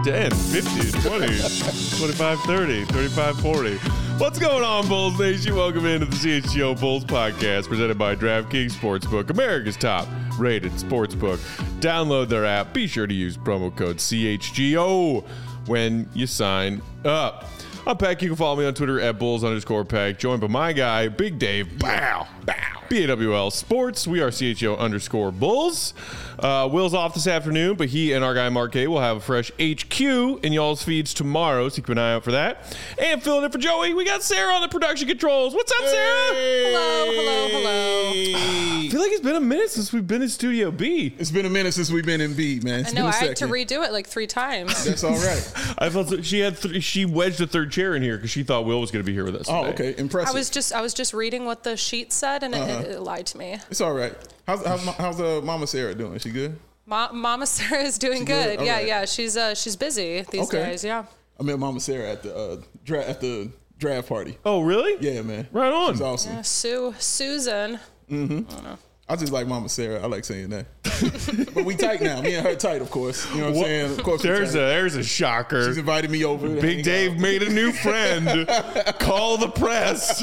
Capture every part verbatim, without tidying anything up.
ten, fifteen, twenty, twenty-five, thirty, thirty-five, forty. What's going on, Bulls Nation? Welcome into the C H G O Bulls podcast presented by DraftKings Sportsbook, America's top rated sportsbook. Download their app. Be sure to use promo code C H G O when you sign up. I'm Peck. You can follow me on Twitter at Bulls underscore Peck. Joined by my guy, Big Dave. Bow. Bow. B A W L Sports. We are C H G O underscore Bulls. Uh, Will's off this afternoon, but he and our guy Mark A will have a fresh H Q in y'all's feeds tomorrow, so keep an eye out for that. And filling in for Joey, we got Sarah on the production controls. What's up, Sarah? Hey. Hello, hello, hello. I feel like it's been a minute since we've been in Studio B. It's been a minute since we've been in B, man. It's I know. been a I had to second. redo it like three times. That's all right. I felt so, she had th- she wedged a third chair in here because she thought Will was going to be here with us. Oh, today. okay. Impressive. I was just I was just reading what the sheet said, and Uh-huh. it, it lied to me. It's all right. How's how's, how's uh, Mama Sarah doing? She good? Ma- Mama Sarah is doing She good. good? Yeah, Alright. yeah. She's uh she's busy these Okay. days. Yeah. I met Mama Sarah at the uh, dra- at the draft party. Oh, really? Yeah, man. Right on. She's awesome. Yeah, Sue Susan. I just like Mama Sarah. I like saying that. But we tight now. Me and her tight, of course. You know what I'm What- saying? Of course, we There's a tight. there's a shocker. She's invited me over. to hang Big Dave out. made a new friend. Call the press.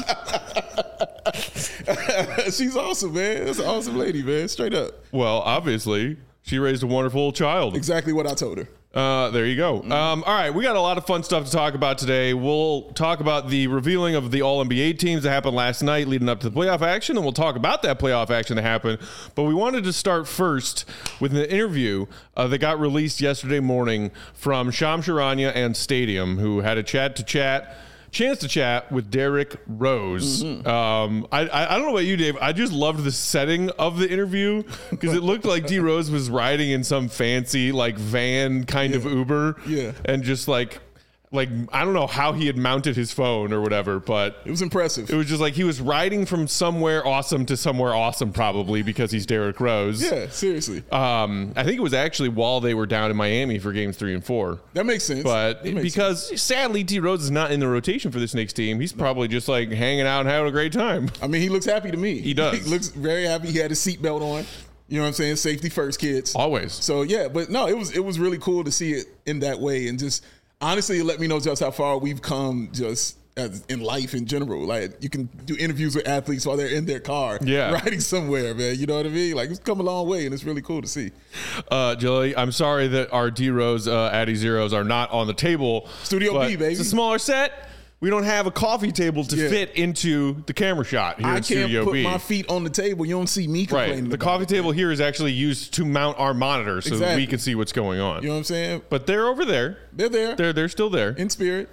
She's awesome, man. That's an awesome lady, man. Straight up. Well, obviously, she raised a wonderful child. Exactly what I told her. Uh, there you go. Um, all right, we got a lot of fun stuff to talk about today. We'll talk about the revealing of the All N B A teams that happened last night leading up to the playoff action, and we'll talk about that playoff action that happened. But we wanted to start first with an interview uh, that got released yesterday morning from Shams Charania and Stadium, who had a chat to chat. Chance to chat with Derrick Rose. Mm-hmm. Um, I, I I don't know about you, Dave. I just loved the setting of the interview because it looked like D Rose was riding in some fancy like van kind of Yeah. Uber, Yeah. and just like like I don't know how he had mounted his phone or whatever, but It was impressive. it was just like he was riding from somewhere awesome to somewhere awesome, probably because he's Derrick Rose. yeah, seriously. Um, I think it was actually while they were down in Miami for games three and four. That makes sense. But That makes because sadly, D Rose is not in the rotation for this Knicks team, he's probably just like hanging out and having a great time. I mean, he looks happy to me. He does. He looks very happy. He had his seatbelt on. You know what I'm saying? Safety first, kids. Always. So yeah, but no, it was it was really cool to see it in that way, and just honestly, it let me know just how far we've come just as in life in general. Like you can do interviews with athletes while they're in their car, Yeah. riding somewhere, man. You know what I mean? Like it's come a long way, and it's really cool to see. Uh, Joey, I'm sorry that our D Rose uh, Addy Zeros are not on the table. Studio but B, baby. It's a smaller set. We don't have a coffee table to Yeah. fit into the camera shot here I in can't Studio put B. my feet on the table. You don't see me complaining. Right. The about coffee it. table here is actually used to mount our monitor so that we Exactly. can see what's going on. You know what I'm saying? But they're over there. They're there They're they're still there. in spirit.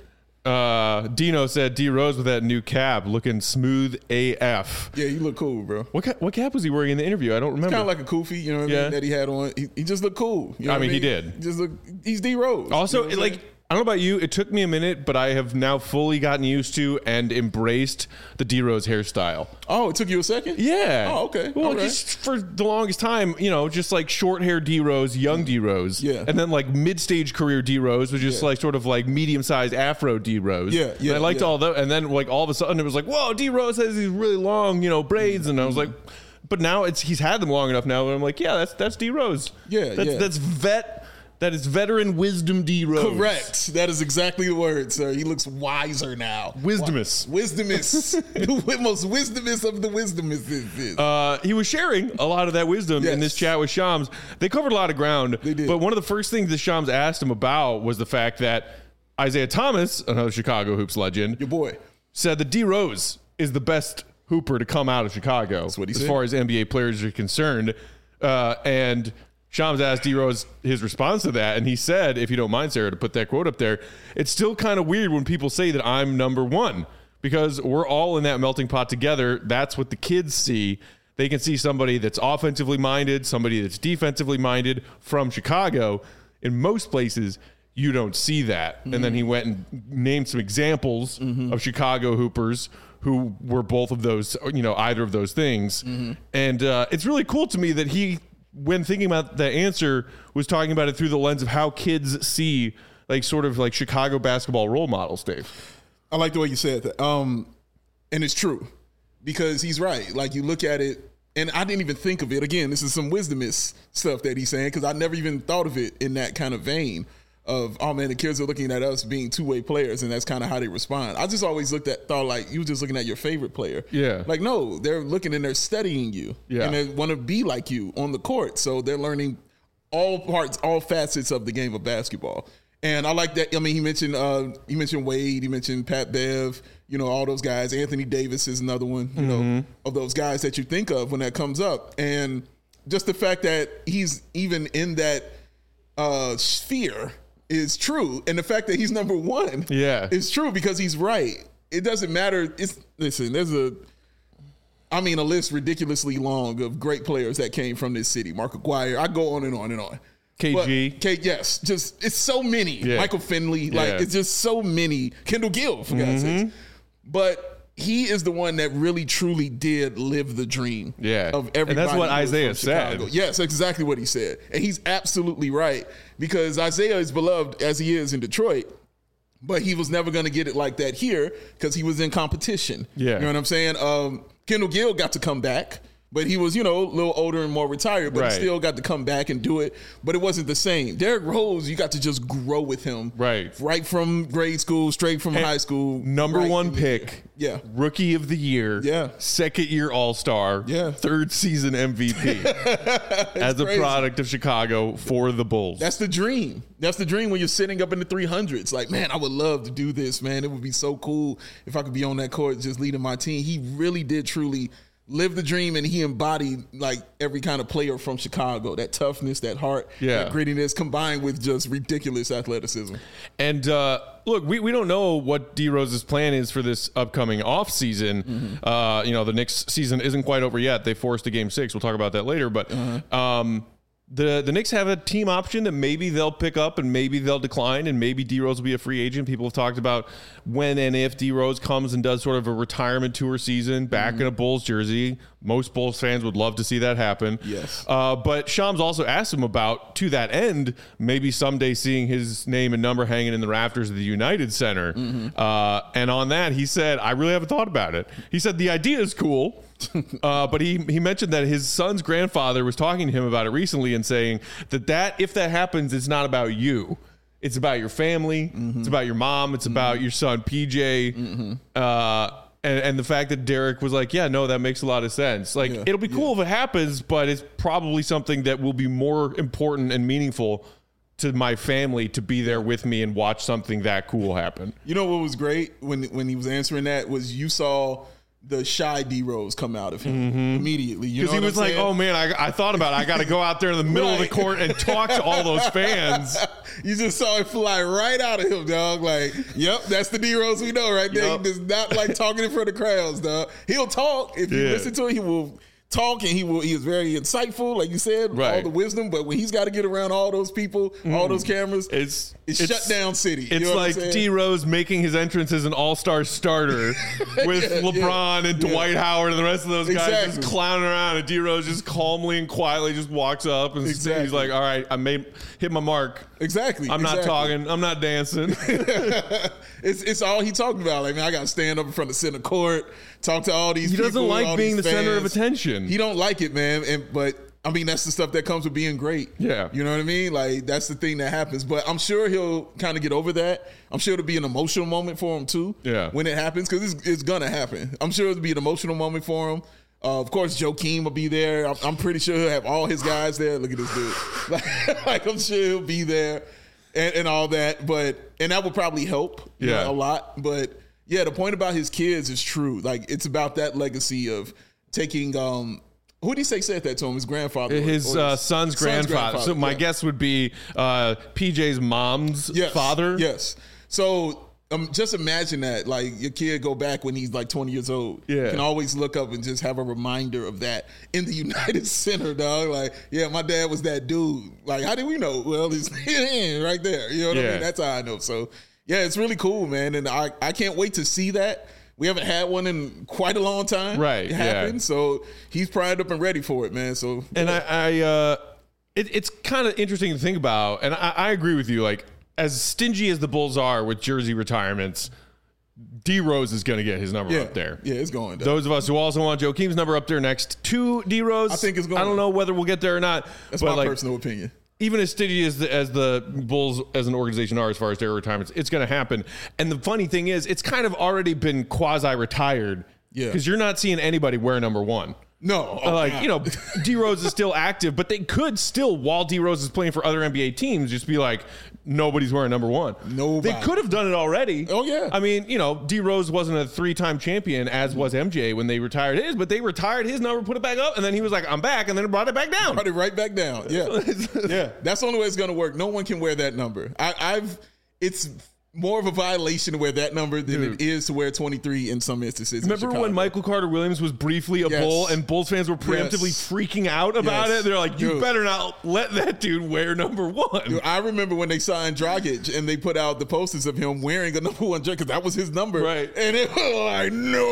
Uh, Dino said D Rose with that new cap looking smooth A F. Yeah, you look cool, bro. What cap, what cap was he wearing in the interview? I don't remember. Kind of like a kufi, you know what I Yeah. mean, that he had on. He, he just looked cool. You know I what mean, he did. He just look. He's D Rose. Also, you know what it, I'm like, saying? I don't know about you, it took me a minute, but I have now fully gotten used to and embraced the D Rose hairstyle. Oh, it took you a second? Yeah. Oh, okay. Well, All right. just for the longest time, you know, just like short hair D Rose, young D Rose. Yeah. And then like mid stage career D Rose was just Yeah. like sort of like medium sized Afro D Rose. Yeah, yeah, And I liked yeah. all that. And then like all of a sudden it was like, whoa, D Rose has these really long, you know, braids. And I was like, but now it's he's had them long enough now. And I'm like, yeah, that's that's D Rose. Yeah, That's yeah. that's vet. That is veteran wisdom D Rose. Correct. That is exactly the word, sir. He looks wiser now. Wisdomous. Wi- Wisdomous. The most wisdomous of the wisdomous. Uh, he was sharing a lot of that wisdom in Yes. this chat with Shams. They covered a lot of ground. They did. But one of the first things that Shams asked him about was the fact that Isaiah Thomas, another Chicago Hoops legend, Your boy. said that D Rose is the best hooper to come out of Chicago That's what he as said. far as N B A players are concerned. Uh, and Shams asked D Rose his response to that, and he said, if you don't mind, Sarah, to put that quote up there, it's still kind of weird when people say that I'm number one because we're all in that melting pot together. That's what the kids see. They can see somebody that's offensively minded, somebody that's defensively minded from Chicago. In most places, you don't see that. Mm-hmm. And then he went and named some examples mm-hmm. of Chicago hoopers who were both of those, you know, either of those things. Mm-hmm. And uh, it's really cool to me that he, when thinking about the answer, was talking about it through the lens of how kids see like sort of like Chicago basketball role models, Dave. I like the way you said that. Um, and it's true because he's right. Like you look at it, and I didn't even think of it. Again, this is some wisdomous stuff that he's saying because I never even thought of it in that kind of vein. of, oh man, the kids are looking at us being two-way players, and that's kind of how they respond. I just always looked at, thought like you were just looking at your favorite player. Yeah. Like, no, they're looking and they're studying you. Yeah. And they want to be like you on the court. So they're learning all parts, all facets of the game of basketball. And I like that. I mean, he mentioned uh, he mentioned Wade, he mentioned Pat Bev, you know, all those guys. Anthony Davis is another one, you Mm-hmm. know, of those guys that you think of when that comes up. And just the fact that he's even in that uh, sphere is true. And the fact that he's number one Yeah. is true because he's right. It doesn't matter. It's listen, there's a I mean, a list ridiculously long of great players that came from this city. Mark Aguirre, I go on and on and on. K G. But, K, yes, just it's so many. Yeah. Michael Finley, like Yeah. it's just so many. Kendall Gill, for God's Mm-hmm. sakes. But he is the one that really truly did live the dream. Yeah. Of everybody. And that's what who was Isaiah from said. Chicago. Yes, that's exactly what he said, and he's absolutely right because Isaiah is beloved as he is in Detroit. But he was never going to get it like that here because he was in competition. Yeah. You know what I'm saying? Um, Kendall Gill got to come back, but he was, you know, a little older and more retired, but Right. he still got to come back and do it. But it wasn't the same. Derrick Rose, you got to just grow with him. Right. Right from grade school, straight from high school. Number right one in the- pick. Yeah. Rookie of the year. Yeah. Second year All Star. Yeah. Third season M V P. As a crazy. product of Chicago for the Bulls. That's the dream. That's the dream when you're sitting up in the three hundreds. Like, man, I would love to do this, man. It would be so cool if I could be on that court just leading my team. He really did truly live the dream, and he embodied like every kind of player from Chicago. That toughness, that heart, Yeah. that grittiness combined with just ridiculous athleticism. And uh, look, we, we don't know what D Rose's plan is for this upcoming offseason. Mm-hmm. Uh, you know, the Knicks season isn't quite over yet. They forced a game six. We'll talk about that later. But Uh-huh. um, the the Knicks have a team option that maybe they'll pick up and maybe they'll decline, and maybe D Rose will be a free agent. People have talked about when and if D Rose comes and does sort of a retirement tour season back Mm-hmm. in a Bulls jersey. Most Bulls fans would love to see that happen. Yes. Uh, but Shams also asked him about, to that end, maybe someday seeing his name and number hanging in the rafters of the United Center. Mm-hmm. Uh, and on that, he said, I really haven't thought about it. He said the idea is cool. uh, but he, he mentioned that his son's grandfather was talking to him about it recently and saying that, that if that happens, it's not about you. It's about your family. Mm-hmm. It's about your mom. It's about your son, P J. Mm-hmm. Uh, and, and the fact that Derek was like, yeah, no, that makes a lot of sense. Like, Yeah, it'll be cool if it happens, but it's probably something that will be more important and meaningful to my family to be there with me and watch something that cool happen. You know what was great when when he was answering that was you saw the shy D Rose come out of him immediately. You know Because he what was I'm like, saying? oh man, I, I thought about it. I got to go out there in the middle of the Right. court and talk to all those fans. You just saw it fly right out of him, dog. Like, yep, that's the D Rose we know right there. Yep. He does not like talking in front of crowds, dog. He'll talk. If you Yeah. listen to him, he will talk, and he will. He is very insightful, like you said, all Right. the wisdom. But when he's got to get around all those people, all those cameras, It's it's, shut down city. You It's know what I'm like saying? D Rose making his entrance as an all-star starter with Yeah, LeBron yeah, and yeah. Dwight Howard and the rest of those guys Exactly. just clowning around, and D Rose just calmly and quietly just walks up and Exactly. he's like, all right, I made hit my mark. Exactly. I'm not exactly. talking. I'm not dancing. It's it's all he talked about. Like, man, I got to stand up in front of center court, talk to all these. He doesn't people, like all being these the center of fans. attention. He don't like it, man. And but I mean, that's the stuff that comes with being great. Yeah. You know what I mean? Like, that's the thing that happens. But I'm sure he'll kind of get over that. I'm sure it'll be an emotional moment for him too. Yeah. When it happens, because it's, it's gonna happen. I'm sure it'll be an emotional moment for him. Uh, of course, Joakim will be there. I'm, I'm pretty sure he'll have all his guys there. Look at this dude. Like, like I'm sure he'll be there and, and all that. But and that will probably help. you Yeah. know, a lot. But yeah, the point about his kids is true. Like, it's about that legacy of taking. Um, who did he say said that to him? His grandfather, or- His or uh, his son's, grandfather. So my yeah. guess would be uh, P J's mom's Yes. father. Yes. So um, just imagine that, like, your kid go back when he's like twenty years old. Yeah. You can always look up and just have a reminder of that in the United Center, dog. Like, yeah, my dad was that dude. Like, how did we know? Well, he's right there. You know what I Yeah. mean? That's how I know. So yeah, it's really cool, man. And I, I can't wait to see that. We haven't had one in quite a long time. Right, It yeah. happened. So he's primed up and ready for it, man. So And I, I uh, it, it's kind of interesting to think about, and I, I agree with you. Like, as stingy as the Bulls are with jersey retirements, D Rose is going to get his number yeah, up there. Yeah, it's going. Dog. Those of us who also want Joakim's number up there next to D Rose, I think it's going. I don't know whether we'll get there or not. That's but my like, personal opinion. even as stingy as the, as the Bulls as an organization are as far as their retirements, it's going to happen. And the funny thing is, it's kind of already been quasi-retired. Yeah. Because you're not seeing anybody wear number one. No. Oh, like, God. you know, D Rose is still active, but they could still, while D Rose is playing for other N B A teams, just be like, nobody's wearing number one. Nobody. They could have done it already. Oh, yeah. I mean, you know, D Rose wasn't a three-time champion, as was M J when they retired his, but they retired his number, put it back up, and then he was like, I'm back, and then brought it back down. Brought it right back down. Yeah. Yeah. That's the only way it's going to work. No one can wear that number. I, I've, it's more of a violation to wear that number than Dude. it is to wear twenty-three in some instances. in Remember when Chicago. Michael Carter Williams was briefly a Yes. Bull and Bulls fans were preemptively Yes. freaking out about Yes. it? They're like, you Dude. better not let that dude wear number one. I remember when they signed Dragic and they put out the posters of him wearing a number one jersey because that was his number. Right. And it was like,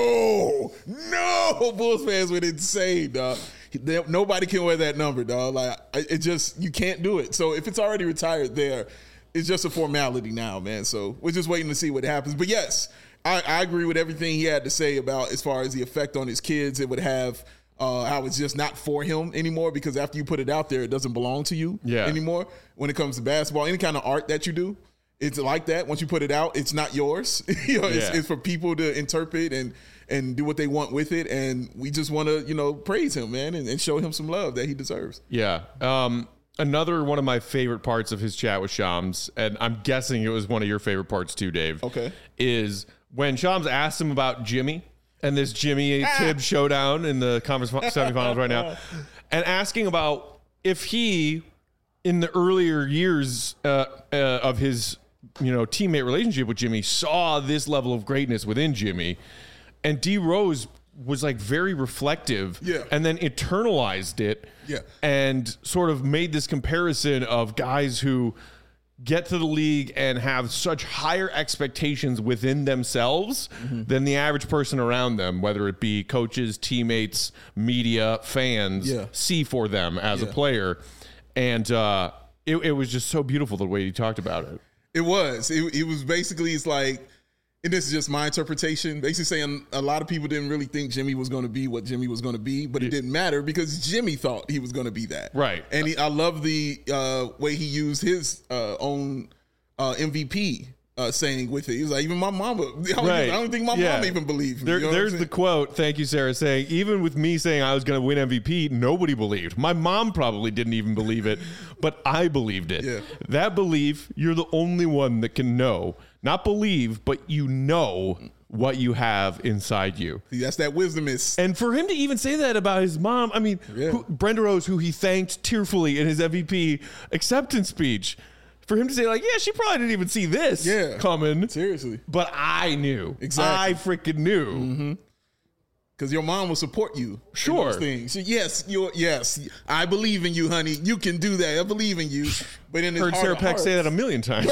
no, no. Bulls fans went insane, dog. They- Nobody can wear that number, dog. Like, I- it just, you can't do it. So if it's already retired there, it's just a formality now, man. So we're just waiting to see what happens. But yes, I, I agree with everything he had to say about as far as the effect on his kids it would have. Uh, how it's just not for him anymore because after you put it out there, it doesn't belong to you Yeah. anymore. When it comes to basketball, any kind of art that you do, it's like that. Once you put it out, it's not yours. you know, it's, Yeah. it's for people to interpret and and do what they want with it. And we just want to, you know, praise him, man, and, and show him some love that he deserves. Yeah. Um, another one of my favorite parts of his chat with Shams, and I'm guessing it was one of your favorite parts too, Dave. Okay. Is when Shams asked him about Jimmy and this Jimmy Ah. Tibbs showdown in the conference semifinals right now, and asking about if he, in the earlier years uh, uh, of his, you know, teammate relationship with Jimmy, saw this level of greatness within Jimmy, and D Rose was like very reflective, Yeah. and then internalized it, Yeah. and sort of made this comparison of guys who get to the league and have such higher expectations within themselves Mm-hmm. than the average person around them, whether it be coaches, teammates, media, fans, Yeah. see for them as a Yeah. player. And uh, it, it was just so beautiful the way he talked about it. It was. It, it was basically, it's like, and this is just my interpretation, basically saying a lot of people didn't really think Jimmy was going to be what Jimmy was going to be, but it didn't matter because Jimmy thought he was going to be that. Right. And he, I love the uh, way he used his uh, own uh, M V P uh, saying with it. He was like, even my mama, I don't, Right. even, I don't think my Yeah. mom even believed me. There, You know what I'm there's the saying? quote. Thank you, Sarah, saying, even with me saying I was going to win M V P, nobody believed. My mom probably didn't even believe it, but I believed it. Yeah. That belief, you're the only one that can know. Not believe, but you know what you have inside you. See, that's that wisdom is. And for him to even say that about his mom, I mean, Yeah. who, Brenda Rose, who he thanked tearfully in his M V P acceptance speech, for him to say, like, yeah, she probably didn't even see this Yeah. coming. Seriously. But I knew. Exactly. I freaking knew. Mm-hmm. Because your mom will support you. Sure. In those things. So yes, you're, yes, I believe in you, honey. You can do that. I believe in you. But in his Heard heart Sarah of Peck say hearts- that a million times.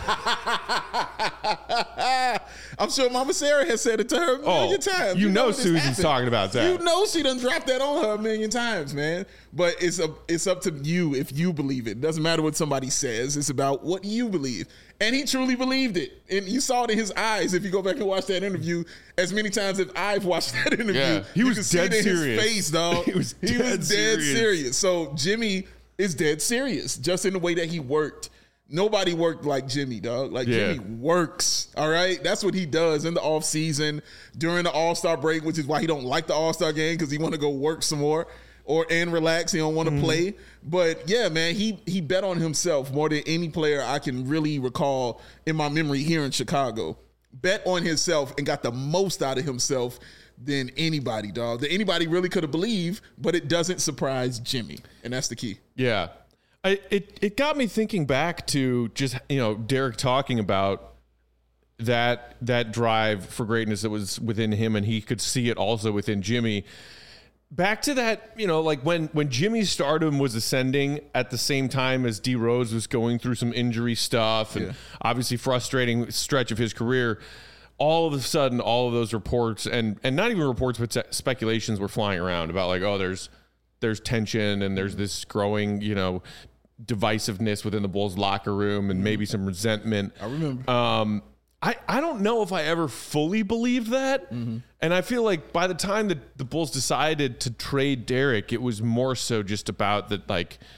I'm sure Mama Sarah has said it to her a Oh, million times. you know this Susan's happened. talking about that. You know she done dropped that on her a million times, man. But it's a, it's up to you if you believe it. It doesn't matter what somebody says. It's about what you believe. And he truly believed it. And you saw it in his eyes if you go back and watch that interview as many times as I've watched that interview. Yeah, he You was can see dead it in serious. his face, dog. He was he dead was dead serious. serious. So Jimmy is dead serious just in the way that he worked. Nobody worked like Jimmy, dog. Like Yeah. Jimmy works. All right. That's what he does in the off season during the All-Star break, which is why he don't like the All-Star game because he want to go work some more or and relax. He don't want to Mm-hmm. play. But yeah, man, he he bet on himself more than any player I can really recall in my memory here in Chicago. Bet on himself and got the most out of himself than anybody, dog. That anybody really could have believed, but it doesn't surprise Jimmy. And that's the key. Yeah. I, it, it got me thinking back to just, you know, Derek talking about that that drive for greatness that was within him, and he could see it also within Jimmy. Back to that, you know, like when, when Jimmy's stardom was ascending at the same time as D Rose was going through some injury stuff and Yeah. obviously frustrating stretch of his career, all of a sudden, all of those reports and, and not even reports, but se- speculations were flying around about like, oh, there's there's tension and there's this growing, you know, divisiveness within the Bulls locker room and maybe some resentment. I remember. Um, I, I don't know if I ever fully believed that. Mm-hmm. And I feel like by the time that the Bulls decided to trade Derek, it was more so just about that, like,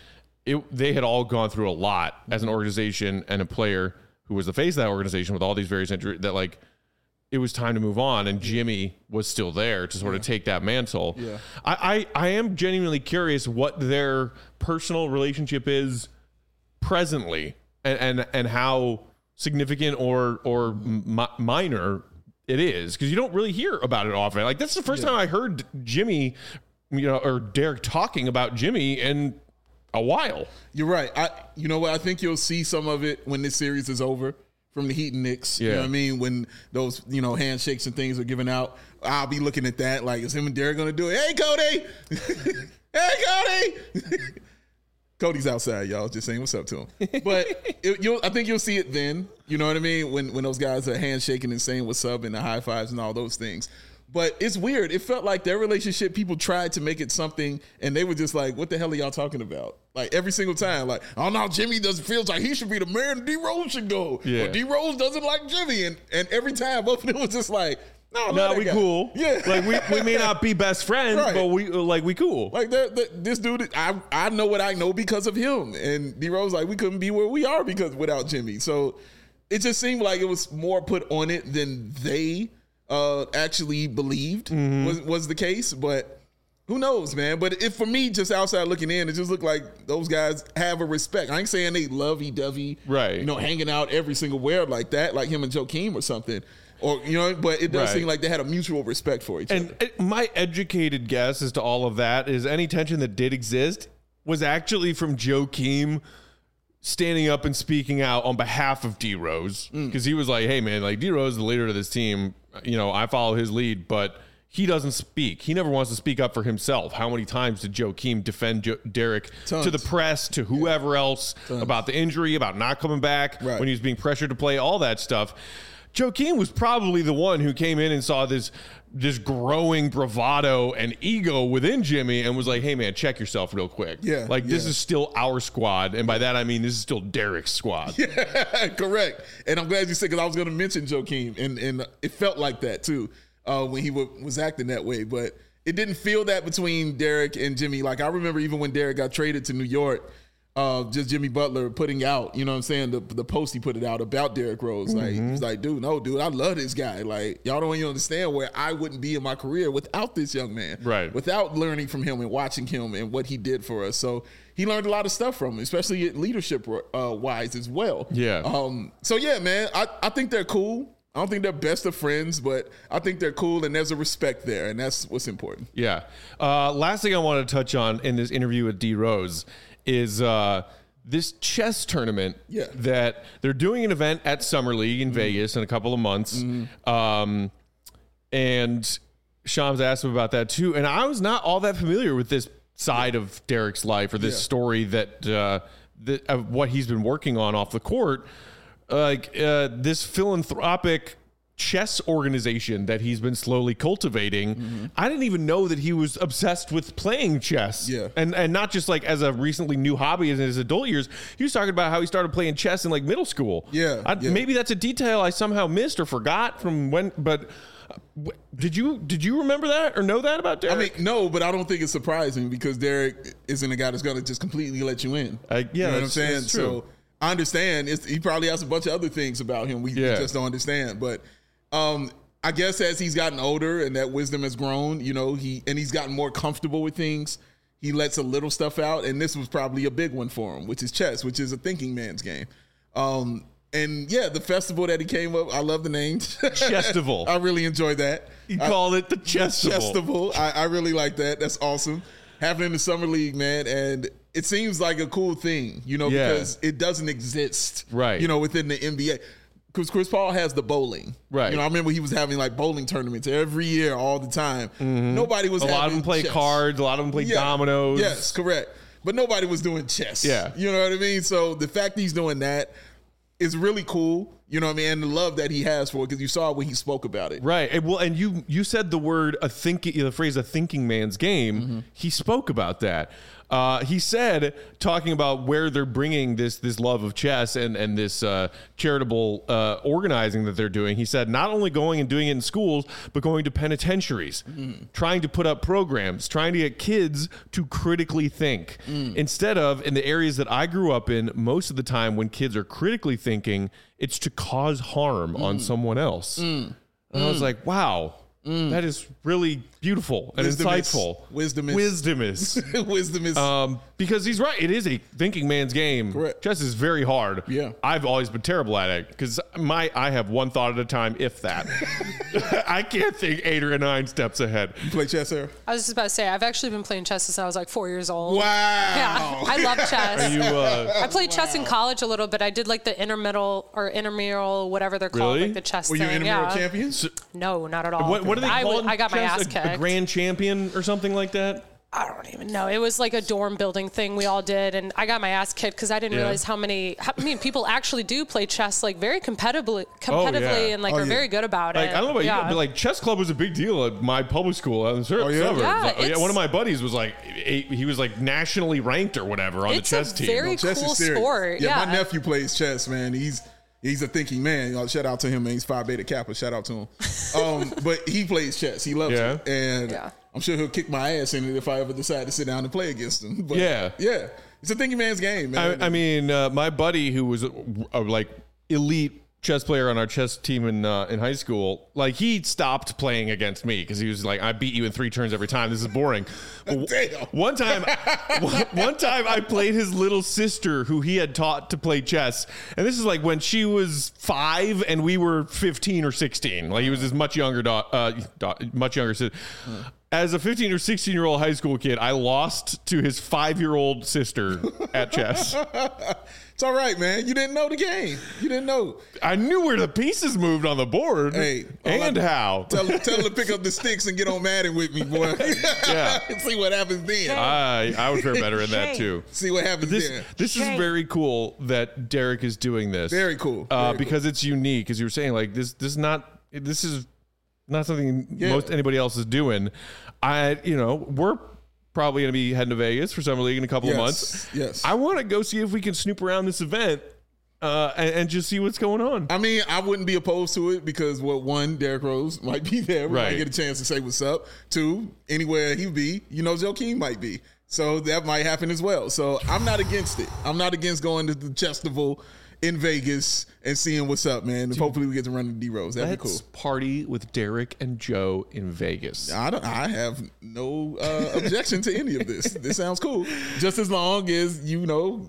it, they had all gone through a lot as an organization and a player who was the face of that organization with all these various injuries that like it was time to move on, and Jimmy was still there to sort of take that mantle. Yeah. I, I, I am genuinely curious what their personal relationship is presently and, and, and how significant or, or mi- minor it is, because you don't really hear about it often. Like that's the first yeah. time I heard Jimmy, you know, or Derek talking about Jimmy in a while. You're right. I, you know what? I think you'll see some of it when this series is over from the Heat and Knicks. Yeah. You know what I mean? When those, you know, handshakes and things are given out, I'll be looking at that like, is him and Derek going to do it? Hey, Cody. Hey, Cody. Cody's outside, y'all. Just saying what's up to him. But it, you'll, I think you'll see it then. You know what I mean? When when those guys are handshaking and saying what's up and the high fives and all those things. But it's weird. It felt like their relationship, people tried to make it something, and they were just like, what the hell are y'all talking about? Like, every single time. Like, oh, no, Jimmy doesn't feels like he should be the man. D-Rose should go. Yeah. Or D-Rose doesn't like Jimmy. And and every time, both of them was just like, no, no, we guy. cool. Yeah. Like, we, we may not be best friends, Right. but we like we cool. Like, they're, they're, this dude, I I know what I know because of him. And D-Rose, like, we couldn't be where we are because without Jimmy. So it just seemed like it was more put on it than they Uh, actually believed mm-hmm. was was the case, but who knows, man? But if for me, just outside looking in, it just looked like those guys have a respect. I ain't saying they lovey-dovey, right? You know, hanging out every single where like that, like him and Joakim or something, or you know. But it does right. seem like they had a mutual respect for each and other. And my educated guess as to all of that is any tension that did exist was actually from Joakim standing up and speaking out on behalf of D-Rose, because mm. he was like, hey man, like D-Rose is the leader of this team, you know, I follow his lead, but he doesn't speak. He never wants to speak up for himself. How many times did Joakim defend jo- Derek Tons. to the press, to whoever yeah. else, Tons. about the injury, about not coming back, right. when he was being pressured to play, all that stuff? Joakim was probably the one who came in and saw this this growing bravado and ego within Jimmy and was like, hey man, check yourself real quick. Yeah, like this yeah. is still our squad. And by that, I mean, this is still Derek's squad. Yeah, correct. And I'm glad you said, because I was going to mention Joakim, and, and it felt like that too uh, when he w- was acting that way. But it didn't feel that between Derek and Jimmy. Like I remember even when Derek got traded to New York, Uh, just Jimmy Butler putting out, you know what I'm saying, the the post he put it out about Derrick Rose. Like, Mm-hmm. he was like, dude, no, dude, I love this guy. Like, y'all don't even understand where I wouldn't be in my career without this young man. Right. Without learning from him and watching him and what he did for us. So he learned a lot of stuff from him, especially leadership uh, wise as well. Yeah. Um. So, yeah, man, I, I think they're cool. I don't think they're best of friends, but I think they're cool, and there's a respect there, and that's what's important. Yeah. Uh, last thing I want to touch on in this interview with D Rose is uh, this chess tournament yeah. that they're doing an event at Summer League in mm-hmm. Vegas in a couple of months. Mm-hmm. Um, and Shams asked him about that too. And I was not all that familiar with this side yeah. of Derek's life or this yeah. story that, uh, that of what he's been working on off the court. Like uh, this philanthropic chess organization that he's been slowly cultivating. Mm-hmm. I didn't even know that he was obsessed with playing chess. Yeah. And and not just like as a recently new hobby in his adult years. He was talking about how he started playing chess in like middle school. Yeah. I, yeah. Maybe that's a detail I somehow missed or forgot from when, but did you did you remember that or know that about Derek? I mean, no, but I don't think it's surprising because Derek isn't a guy that's going to just completely let you in. Uh, yeah, you know what I'm saying? That's true. So I understand. It's, he probably has a bunch of other things about him we, yeah. we just don't understand. But um, I guess as he's gotten older and that wisdom has grown, you know, he and he's gotten more comfortable with things, he lets a little stuff out. And this was probably a big one for him, which is chess, which is a thinking man's game. Um, and yeah, the festival that he came up, I love the name. Chestival. I really enjoyed that. He I, called it the Chestival. Chestival. I, I really like that. That's awesome. Happening in the Summer League, man. And it seems like a cool thing, you know, yeah. because it doesn't exist, right? You know, within the N B A. Because Chris Paul has the bowling, right? You know, I remember he was having like bowling tournaments every year, all the time. Mm-hmm. Nobody was. A having lot of them play chess. cards. A lot of them play yeah. dominoes. Yes, correct. But nobody was doing chess. Yeah, you know what I mean. So the fact that he's doing that is really cool. You know what I mean? And the love that he has for it, because you saw when he spoke about it. Right. And well, and you you said the word a thinking, the phrase a thinking man's game. Mm-hmm. He spoke about that. Uh, he said, talking about where they're bringing this this love of chess and and this uh, charitable uh, organizing that they're doing. He said, not only going and doing it in schools, but going to penitentiaries, mm. trying to put up programs, trying to get kids to critically think. Mm. Instead of, in the areas that I grew up in, most of the time when kids are critically thinking, it's to cause harm mm. on someone else. Mm. And mm. I was like, wow. Mm. That is really beautiful and wisdom insightful. Is, wisdom is. Wisdom is. wisdom is. Um, because he's right. It is a thinking man's game. Correct. Chess is very hard. Yeah. I've always been terrible at it because my I have one thought at a time, if that. I can't think eight or nine steps ahead. You play chess, Sarah? I was just about to say, I've actually been playing chess since I was like four years old. Wow. Yeah. I love chess. Are you, uh, I played wow. chess in college a little bit. I did like the intermiddle or intramural, whatever they're called, really? like the chess Were thing. you intramural yeah. champions? No, not at all. What, what are they I, called? I got my chess? ass a, kicked. a grand champion or something like that? I don't even know. It was like a dorm building thing we all did, and I got my ass kicked because I didn't Yeah. realize how many. How, I mean, people actually do play chess like very competitively, competitively, Oh, yeah. and like Oh, are yeah. very good about Like, it. I don't know about yeah. you, but like chess club was a big deal at my public school out in the sur- Oh, yeah? suburbs. Yeah, Like, it's- one of my buddies was like, he he was like nationally ranked or whatever on It's the chess a team. very- No, chess cool is serious. sport, Yeah, yeah. my nephew plays chess, man. He's he's a thinking man. You know, shout out to him, man. He's Phi Beta Kappa. Shout out to him. Um, but he plays chess. He loves Yeah. it, and Yeah. I'm sure he'll kick my ass in it if I ever decide to sit down and play against him. But Yeah. yeah, it's a thinking man's game, man. I, I mean, uh, my buddy who was a, a like elite chess player on our chess team in uh, in high school, like he stopped playing against me because he was like, I beat you in three turns every time. This is boring. But Damn. One time, one, one time I played his little sister who he had taught to play chess, and this is like when she was five and we were fifteen or sixteen. Like he was this much younger, do- uh, do- much younger sister. As a fifteen or sixteen year old high school kid, I lost to his five year old sister at chess. It's all right, man. You didn't know the game. You didn't know. I knew where the pieces moved on the board. Hey, all and I- how. Tell, tell him to pick up the sticks and get on Madden with me, boy. Yeah. See what happens then. I I would fare better in that too. See what happens This then. this is very cool that Derek is doing this. Very cool. Uh, Very because it's unique, as you were saying. Like this, this is not. This is not something Yeah. most anybody else is doing. I, you know, we're probably going to be heading to Vegas for Summer League in a couple Yes, of months. yes. I want to go see if we can snoop around this event uh, and, and just see what's going on. I mean, I wouldn't be opposed to it because, well, one, Derrick Rose might be there. We Right. might get a chance to say what's up. Two, anywhere he be, you know, Joakim might be. So that might happen as well. So I'm not against it. I'm not against going to the Chestival in Vegas and seeing what's up, man. And hopefully we get to run to D Rose. That'd be Let's cool. party with Derek and Joe in Vegas. I don't. I have no uh, objection to any of this. This sounds cool. Just as long as you know,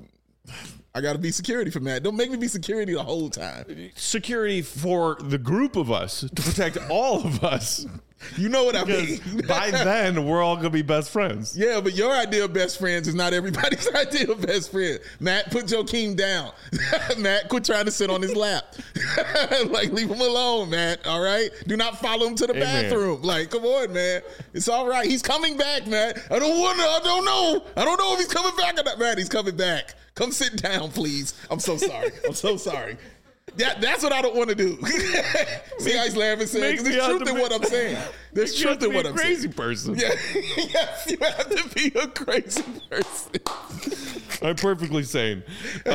I got to be security for Matt. Don't make me be security the whole time. Security for the group of us to protect all of us. You know what I Because mean? by then, we're all going to be best friends. Yeah, but your idea of best friends is not everybody's idea of best friend. Matt, put Joakim down. Matt, quit trying to sit on his lap. Like, leave him alone, Matt. All right? Do not follow him to the Amen. bathroom. Like, come on, man. It's all right. He's coming back, Matt. I don't want to. I don't know. I don't know if he's coming back or not. Matt, he's coming back. Come sit down, please. I'm so sorry. I'm so sorry. That, that's what I don't want to do. See how he's laughing, saying, Make because me there's out truth to in be- what I'm saying. There's You have truth to in be what a I'm crazy saying. person. Yeah, yes, you have to be a crazy person. I'm perfectly sane.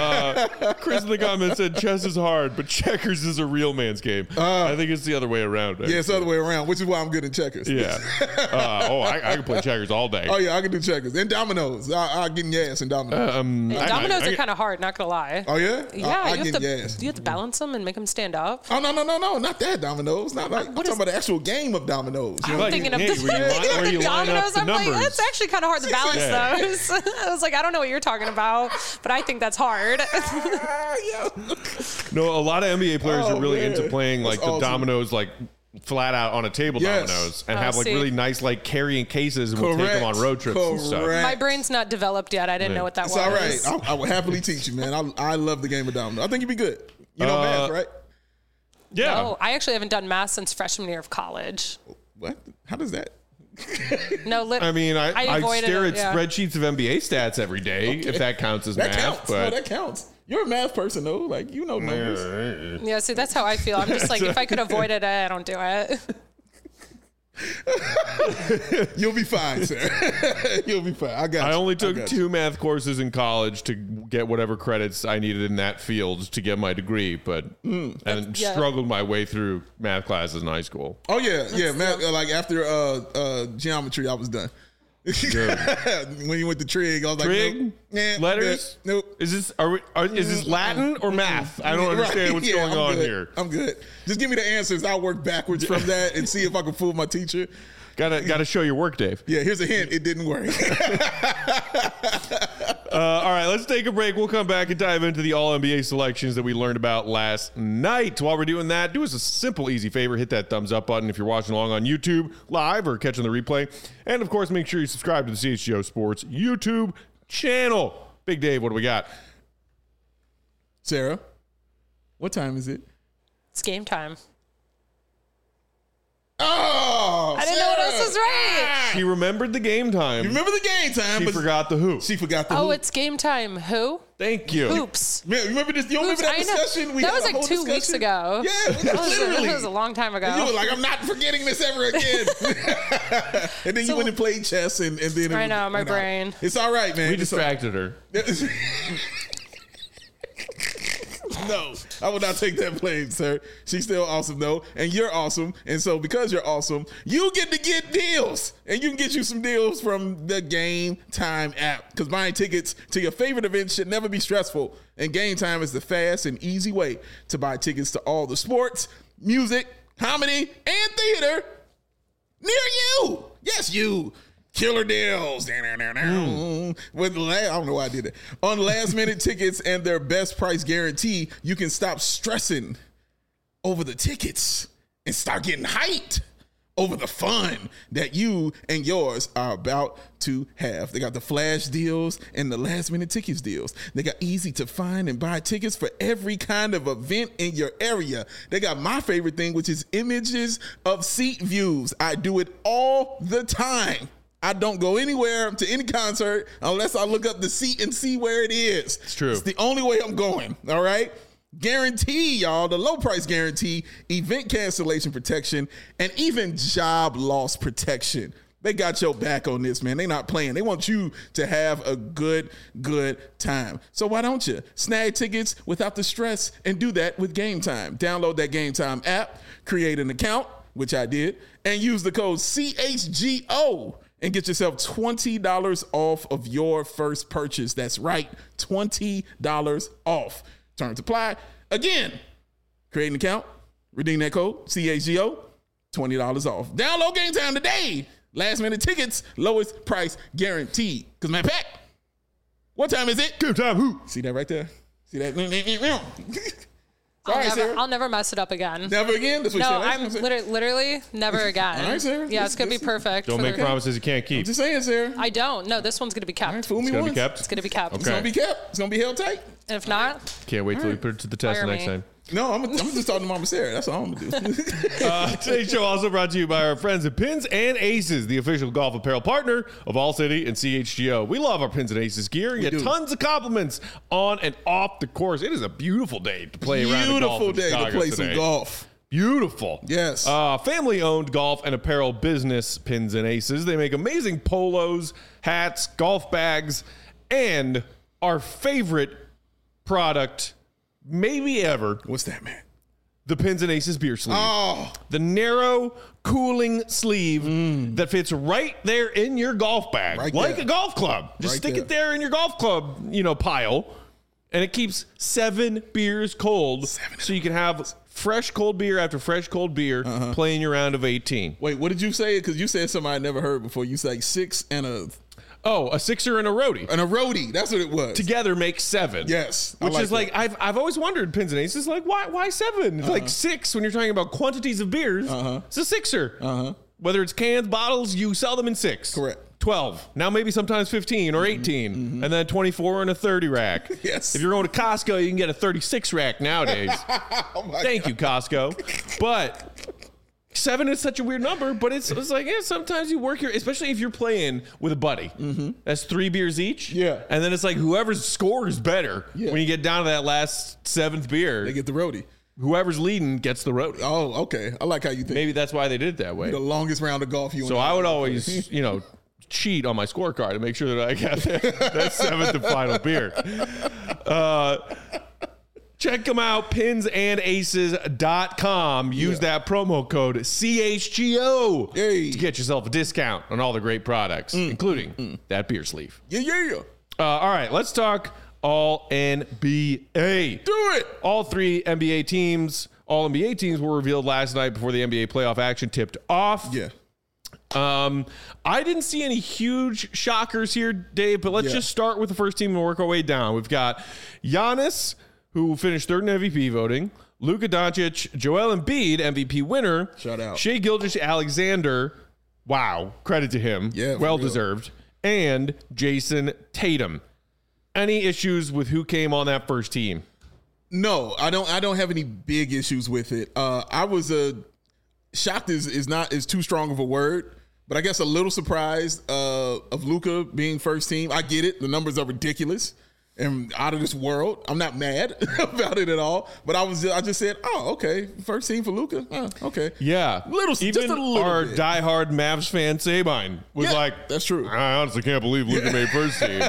Uh, Chris in the comments said chess is hard, but checkers is a real man's game. I think it's the other way around. Yeah, it's the other way around, which is why I'm good at checkers. Yeah. Uh, oh, I, I can play checkers all day. Oh, yeah, I can do checkers. And dominoes. I, I'll get in your ass in dominoes. Um, Yeah, I- dominoes I- are kind of hard, not gonna lie. oh, yeah? Yeah, I, I you, get have in your to, ass. you have to balance them and make them stand up. Oh, no, no, no, no. Not that dominoes. Not like, I'm What talking is- about the actual game of dominoes. You know? I'm Like, thinking of hey, this. where you line- where you line up dominoes. the I'm like, numbers. that's actually kind of hard to balance Yeah. those. I was like, I don't know what you're talking about, but I think that's hard. No, a lot of N B A players Oh, are really man. into playing like That's the awesome. dominoes like flat out on a table Yes. dominoes and Oh, have like see. really nice like carrying cases and we'll take them on road trips and stuff. Correct. My brain's not developed yet. I didn't know what that It's was. all right. I, I would happily teach you, man. I, I love the game of dominoes. I think you'd be good. You know Uh, math, right? Yeah. No, I actually haven't done math since freshman year of college. What? How does that? No, lit- I mean, I, I, avoided stare it, at yeah. spreadsheets of N B A stats every day, if that counts as That math. counts. But No, that counts. You're a math person though. Like you know numbers. Yeah, see, that's how I feel. I'm just like, if I could avoid it, I don't do it. You'll be fine, sir. You'll be fine. I got I you. only took I got two you. math courses in college to get whatever credits I needed in that field to get my degree, but Mm. and Yeah. struggled my way through math classes in high school. Oh yeah, yeah. Math, uh, like after uh, uh, geometry, I was done. When you went to trig, I was like, Trig? nope. Yeah, I'm Letters? good. Nope. Is this are, we, are is this Latin or math? I don't Right. understand what's Yeah, going I'm on good. here. I'm good. Just give me the answers. I'll work backwards from that and see if I can fool my teacher. Gotta gotta show your work, Dave. Yeah, here's a hint. It didn't work. Uh, all right, let's take a break. We'll come back and dive into the All N B A selections that we learned about last night. While we're doing that, do us a simple, easy favor. Hit that thumbs up button if you're watching along on YouTube live or catching the replay. And, of course, make sure you subscribe to the C H G O Sports YouTube channel. Big Dave, what do we got? Sarah, what time is it? It's game time. Oh, I didn't know what else was right. She remembered the game time. You remember the game time, She but forgot the who. she forgot the Oh, who. it's game time. Who? Thank you. Hoops. Man, remember this? You don't Hoops, remember that I know. discussion? We That had was a like whole two weeks discussion? ago. Yeah, That was, literally. that was a long time ago. You were like, I'm not forgetting this ever again. And then you So- went and played chess, and, and then it I was- know, my went out. brain. It's all right, man. We It's all- distracted her. No, I will not take that blame, sir. She's still awesome, though, and you're awesome. And so, because you're awesome, you get to get deals, and you can get you some deals from the Game Time app. Because buying tickets to your favorite events should never be stressful, and Game Time is the fast and easy way to buy tickets to all the sports, music, comedy, and theater near you. Yes, you. Killer deals. Mm. With la- I don't know why I did it. On last minute tickets and their best price guarantee, you can stop stressing over the tickets and start getting hyped over the fun that you and yours are about to have. They got the flash deals and the last minute tickets deals. They got easy to find and buy tickets for every kind of event in your area. They got my favorite thing, which is images of seat views. I do it all the time. I don't go anywhere to any concert unless I look up the seat and see where it is. It's true. It's the only way I'm going. All right. Guarantee, y'all, the low price guarantee, event cancellation protection, and even job loss protection. They got your back on this, man. They not playing. They want you to have a good, good time. So why don't you snag tickets without the stress and do that with Game Time? Download that Game Time app, create an account, which I did, and use the code C H G O and get yourself twenty dollars off of your first purchase. That's right, twenty dollars off. Terms apply. Again, create an account, redeem that code, C H G O, twenty dollars off. Download Game Time today. Last minute tickets, lowest price guaranteed. Because, man, Pat, what time is it? Game time, who? See that right there? See that? I'll, All right, never, Sarah. I'll never mess it up again. Never again? That's what No, you said last I'm time, Sarah? literally, literally never again. All right, Sarah. Yeah, it's gonna be Listen, perfect. Don't for make the- promises you can't keep. I'm just saying, Sarah. I don't. No, this one's gonna be kept. All right, fool me It's gonna once. be kept. It's gonna be kept. It's going to be kept. It's going to be held tight. And if not, Can't wait till we right. put it to the test Fire next me. time. No, I'm, I'm just talking to Mama Sarah. That's all I'm going to do. Uh, today's show also brought to you by our friends at Pins and Aces, the official golf apparel partner of All City and C H G O. We love our Pins and Aces gear. You get do. tons of compliments on and off the course. It is a beautiful day to play around the golf Beautiful in day to Chicago play today. some golf. Beautiful. Yes. Uh, family-owned golf and apparel business, Pins and Aces. They make amazing polos, hats, golf bags, and our favorite product, maybe ever, What's that, man? the Pins and Aces beer sleeve. Oh, The narrow, cooling sleeve that fits right there in your golf bag, Right like there. a golf club. Just Right stick there. it there in your golf club, you know, pile, and it keeps seven beers cold, so you can have fresh cold beer after fresh cold beer, Uh-huh. playing your round of eighteen. wait, what did you say? Because you said something I never heard before. You said like six and a Oh, a sixer and a roadie and a roadie. That's what it was. together makes seven. Yes, I which like is like I've I've always wondered, Pins and Aces, like why why seven? It's like six when you're talking about quantities of beers. Uh-huh. It's a sixer. Uh-huh. Whether it's cans, bottles, you sell them in six. Correct. twelve. Now maybe sometimes fifteen or eighteen, and then twenty-four in a thirty rack. Yes. If you're going to Costco, you can get a thirty-six rack nowadays. Oh my Thank you, Costco. But seven is such a weird number, but it's, it's like, yeah, sometimes you work your, especially if you're playing with a buddy. Mm-hmm. That's three beers each. Yeah. And then it's like whoever's scores better Yeah. when you get down to that last seventh beer. They get the roadie. Whoever's leading gets the roadie. Oh, okay. I like how you think. Maybe that's why they did it that way. The longest round of golf you. So I would always, you know, cheat on my scorecard to make sure that I got that, that seventh and final beer. Uh, check them out, pins and aces dot com. Use Yeah. that promo code C H G O Hey. to get yourself a discount on all the great products, Mm. including mm. that beer sleeve. Yeah, yeah. Uh, all right, let's talk all N B A. Do it. All three N B A teams, all N B A teams were revealed last night before the N B A playoff action tipped off. Yeah. Um, I didn't see any huge shockers here, Dave, but let's Yeah. just start with the first team and work our way down. We've got Giannis, who finished third in M V P voting, Luka Doncic, Joel Embiid, M V P winner. Shout out. Shai Gilgeous-Alexander, wow, credit to him. Yeah, for well real. deserved. And Jason Tatum. Any issues with who came on that first team? No, I don't. I don't have any big issues with it. Uh, I was a uh, shocked is is not is too strong of a word, but I guess a little surprised uh, of Luka being first team. I get it; the numbers are ridiculous and out of this world. I'm not mad about it at all, but I was I just said, oh, okay, first team for Luka. Oh, okay, Yeah. Little- Even just a little our bit. diehard Mavs fan, Sabine, was Yeah, like, that's true. I honestly can't believe Luka made first team.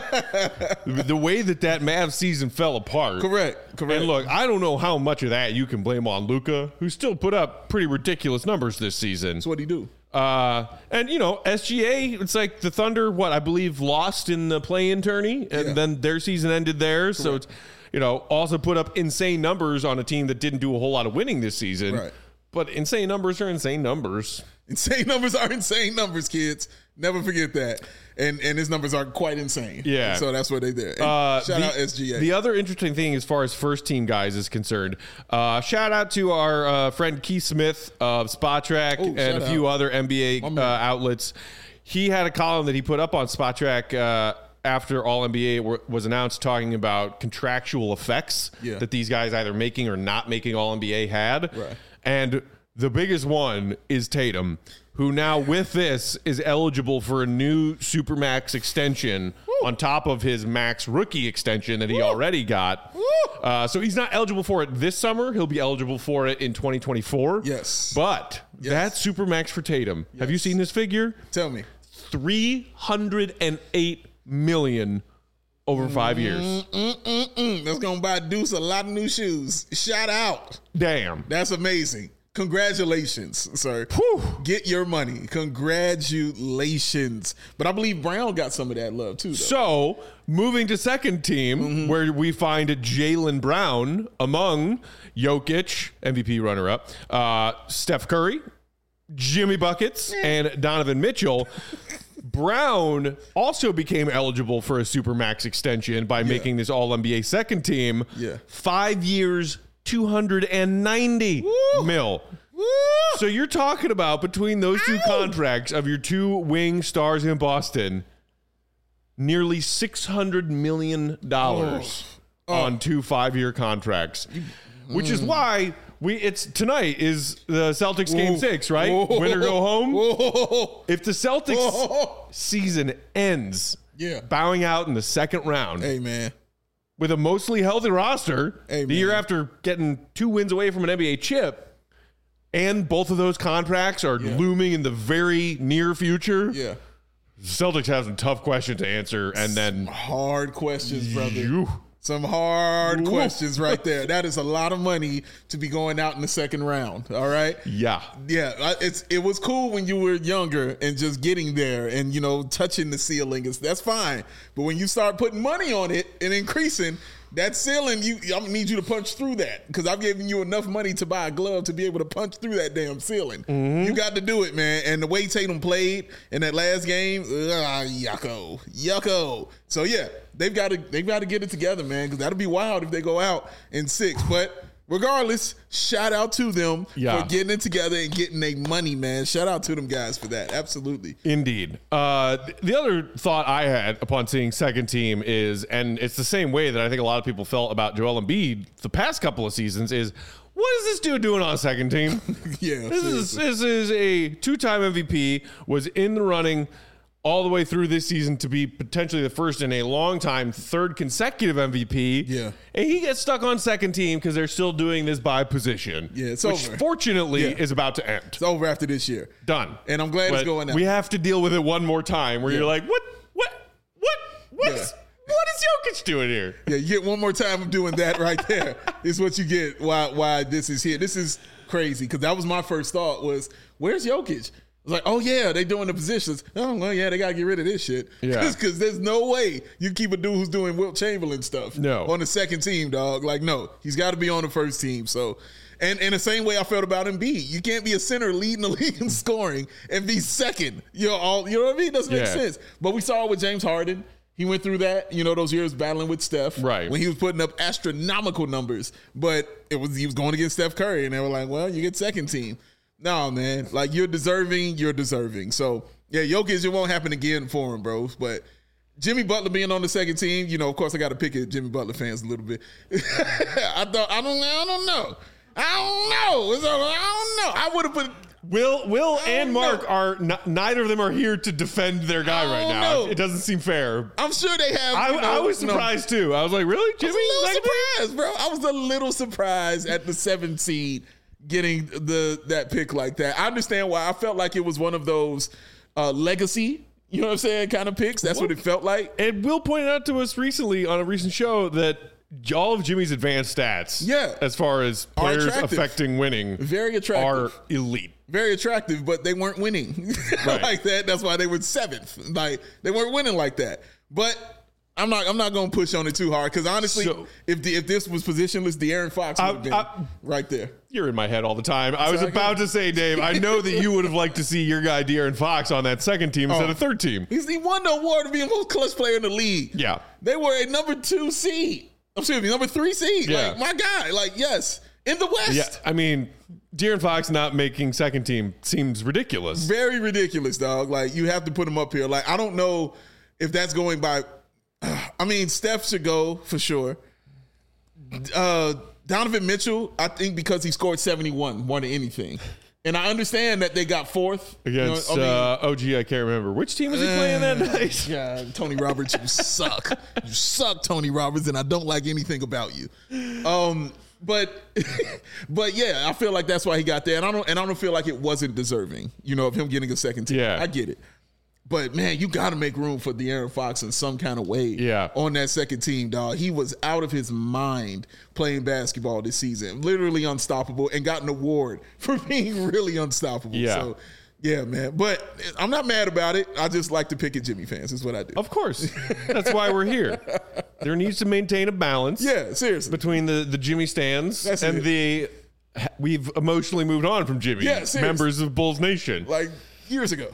The way that that Mavs season fell apart. correct, correct. And look, I don't know how much of that you can blame on Luka, who still put up pretty ridiculous numbers this season. that's what he do. Uh, and, you know, S G A, it's like the Thunder, what, I believe lost in the play-in tourney, and Yeah. then their season ended there. So it's, you know, also put up insane numbers on a team that didn't do a whole lot of winning this season. Right. But insane numbers are insane numbers. Insane numbers are insane numbers, kids. Never forget that. And and his numbers are quite insane. Yeah. So that's what they did. And Uh, shout the, out S G A. The other interesting thing as far as first team guys is concerned, uh, shout out to our uh, friend Keith Smith of Spotrac Oh, and shout a few out. other N B A uh, man. outlets. He had a column that he put up on Spotrac uh, after All N B A were, was announced, talking about contractual effects Yeah. that these guys either making or not making All N B A had. Right. And the biggest one is Tatum, who now with this is eligible for a new Supermax extension on top of his max rookie extension that he already got. Uh, so he's not eligible for it this summer. He'll be eligible for it in twenty twenty-four. Yes. But Yes. that's Supermax for Tatum. Have you seen this figure? Tell me. three hundred eight million over five years. Mm, that's going to buy Deuce a lot of new shoes. Shout out. Damn. That's amazing. Congratulations, sir. Whew. Get your money. Congratulations. But I believe Brown got some of that love too, though. So, moving to second team, Mm-hmm. where we find Jaylen Brown among Jokic, M V P runner-up, uh, Steph Curry, Jimmy Buckets, and Donovan Mitchell. Brown also became eligible for a Supermax extension by making this All N B A second team. Yeah. Five years, two hundred ninety Woo. mil. Woo! So you're talking about, between those two contracts of your two wing stars in Boston, nearly six hundred million dollars Oh. on two five-year contracts, which is why we it's tonight is the Celtics game Whoa. six, right? Whoa. Win or go home. Whoa. If the Celtics Whoa. season ends Yeah. bowing out in the second round Hey, man. with a mostly healthy roster, Hey, the year man. after getting two wins away from an N B A chip, and both of those contracts are looming in the very near future, Yeah. Celtics have some tough questions to answer, and then Hard questions, brother. you, Some hard Ooh. questions right there. That is a lot of money to be going out in the second round. All right. yeah, Yeah, I- it's it was cool when you were younger and just getting there and you know touching the ceiling. Is that's fine, but when you start putting money on it and increasing that ceiling, you I need you to punch through that because I've given you enough money to buy a glove to be able to punch through that damn ceiling. You got to do it, man. And the way Tatum played in that last game, uh, yucko, yucko. So yeah, they've got to they've got to get it together, man, because that'll be wild if they go out in six, but. Regardless, shout out to them Yeah. for getting it together and getting their money, man. Shout out to them guys for that. Absolutely. indeed. Uh, th- the other thought I had upon seeing second team is, and it's the same way that I think a lot of people felt about Joel Embiid the past couple of seasons, is what is this dude doing on a second team? Yeah, this is this is a two-time M V P, was in the running all the way through this season to be potentially the first in a long time, third consecutive M V P. Yeah. And he gets stuck on second team because they're still doing this by position. Yeah, it's which over. fortunately Yeah. is about to end. It's over after this year. Done. And I'm glad But it's going now. we have to deal with it one more time where Yeah. you're like, what, what, what, what, Yeah. is, what is Jokic doing here? Yeah, you get one more time of doing that right there is what you get why why this is here. This is crazy because that was my first thought was, where's Jokic? I was like, oh, yeah, they doing the positions. Oh, well, yeah, they got to get rid of this shit. Yeah. Because there's no way you keep a dude who's doing Wilt Chamberlain stuff No. on the second team, dog. Like, no, he's got to be on the first team. So, and in the same way I felt about Embiid, you can't be a center leading the league in scoring and be second. You know, all, you know what I mean? It doesn't make Yeah. sense. But we saw it with James Harden. He went through that, you know, those years battling with Steph. Right. When he was putting up astronomical numbers. But it was he was going against Steph Curry, and they were like, well, you get second team. No, man. Like, you're deserving, you're deserving. So, yeah, Jokic, it won't happen again for him, bros. But Jimmy Butler being on the second team, you know, of course, I got to pick at Jimmy Butler fans a little bit. I thought, I don't, I don't know. I don't know. It's, I don't know. I would have put... Will Will and Mark know. are n- neither of them are here to defend their guy I right don't now. know. It doesn't seem fair. I'm sure they have... I, you know, I was you know, surprised too. I was like, really, Jimmy? I was a Second little team? surprised, bro. I was a little surprised at the seventh seed getting the that pick like that. I understand why. I felt like it was one of those uh, legacy, you know what I'm saying, kind of picks. That's what it felt like. And Will pointed out to us recently on a recent show that all of Jimmy's advanced stats, Yeah. as far as Are players attractive. affecting winning, Very attractive. are elite. Very attractive, but they weren't winning Right. like that. That's why they were seventh. Like they weren't winning like that. But I'm not. I'm not going to push on it too hard because honestly, So- if the, if this was positionless, De'Aaron Fox would have I- been I- right there. You're in my head all the time. I was Sorry, about to say, Dave, I know that you would have liked to see your guy De'Aaron Fox on that second team instead Oh. of third team. He's he won the award to be the most clutch player in the league. Yeah. They were a number two seed. Excuse me, number three seed. Yeah. Like my guy. Like yes, in the West. Yeah, I mean, De'Aaron Fox not making second team seems ridiculous. Very ridiculous, dog. Like you have to put him up here. Like I don't know if that's going by. I mean, Steph should go for sure. Uh, Donovan Mitchell, I think because he scored seventy-one more than anything. And I understand that they got fourth Against You know, I mean, uh, O G, I can't remember. Which team was he playing that night? yeah, Tony Roberts, you suck. You suck, Tony Roberts, and I don't like anything about you. Um, but but yeah, I feel like that's why he got there. And I don't and I don't feel like it wasn't deserving, you know, of him getting a second team. Yeah. I get it. But man, you got to make room for De'Aaron Fox in some kind of way. Yeah. On that second team, dog. He was out of his mind playing basketball this season, literally unstoppable, and got an award for being really unstoppable. Yeah. So, yeah, man. But I'm not mad about it. I just like to pick at Jimmy fans. Is what I do. Of course. That's why we're here. There needs to maintain a balance Yeah, seriously. between the, the Jimmy stands That's and it. the we've emotionally moved on from Jimmy. Yeah, seriously. members of Bulls Nation. Like years ago.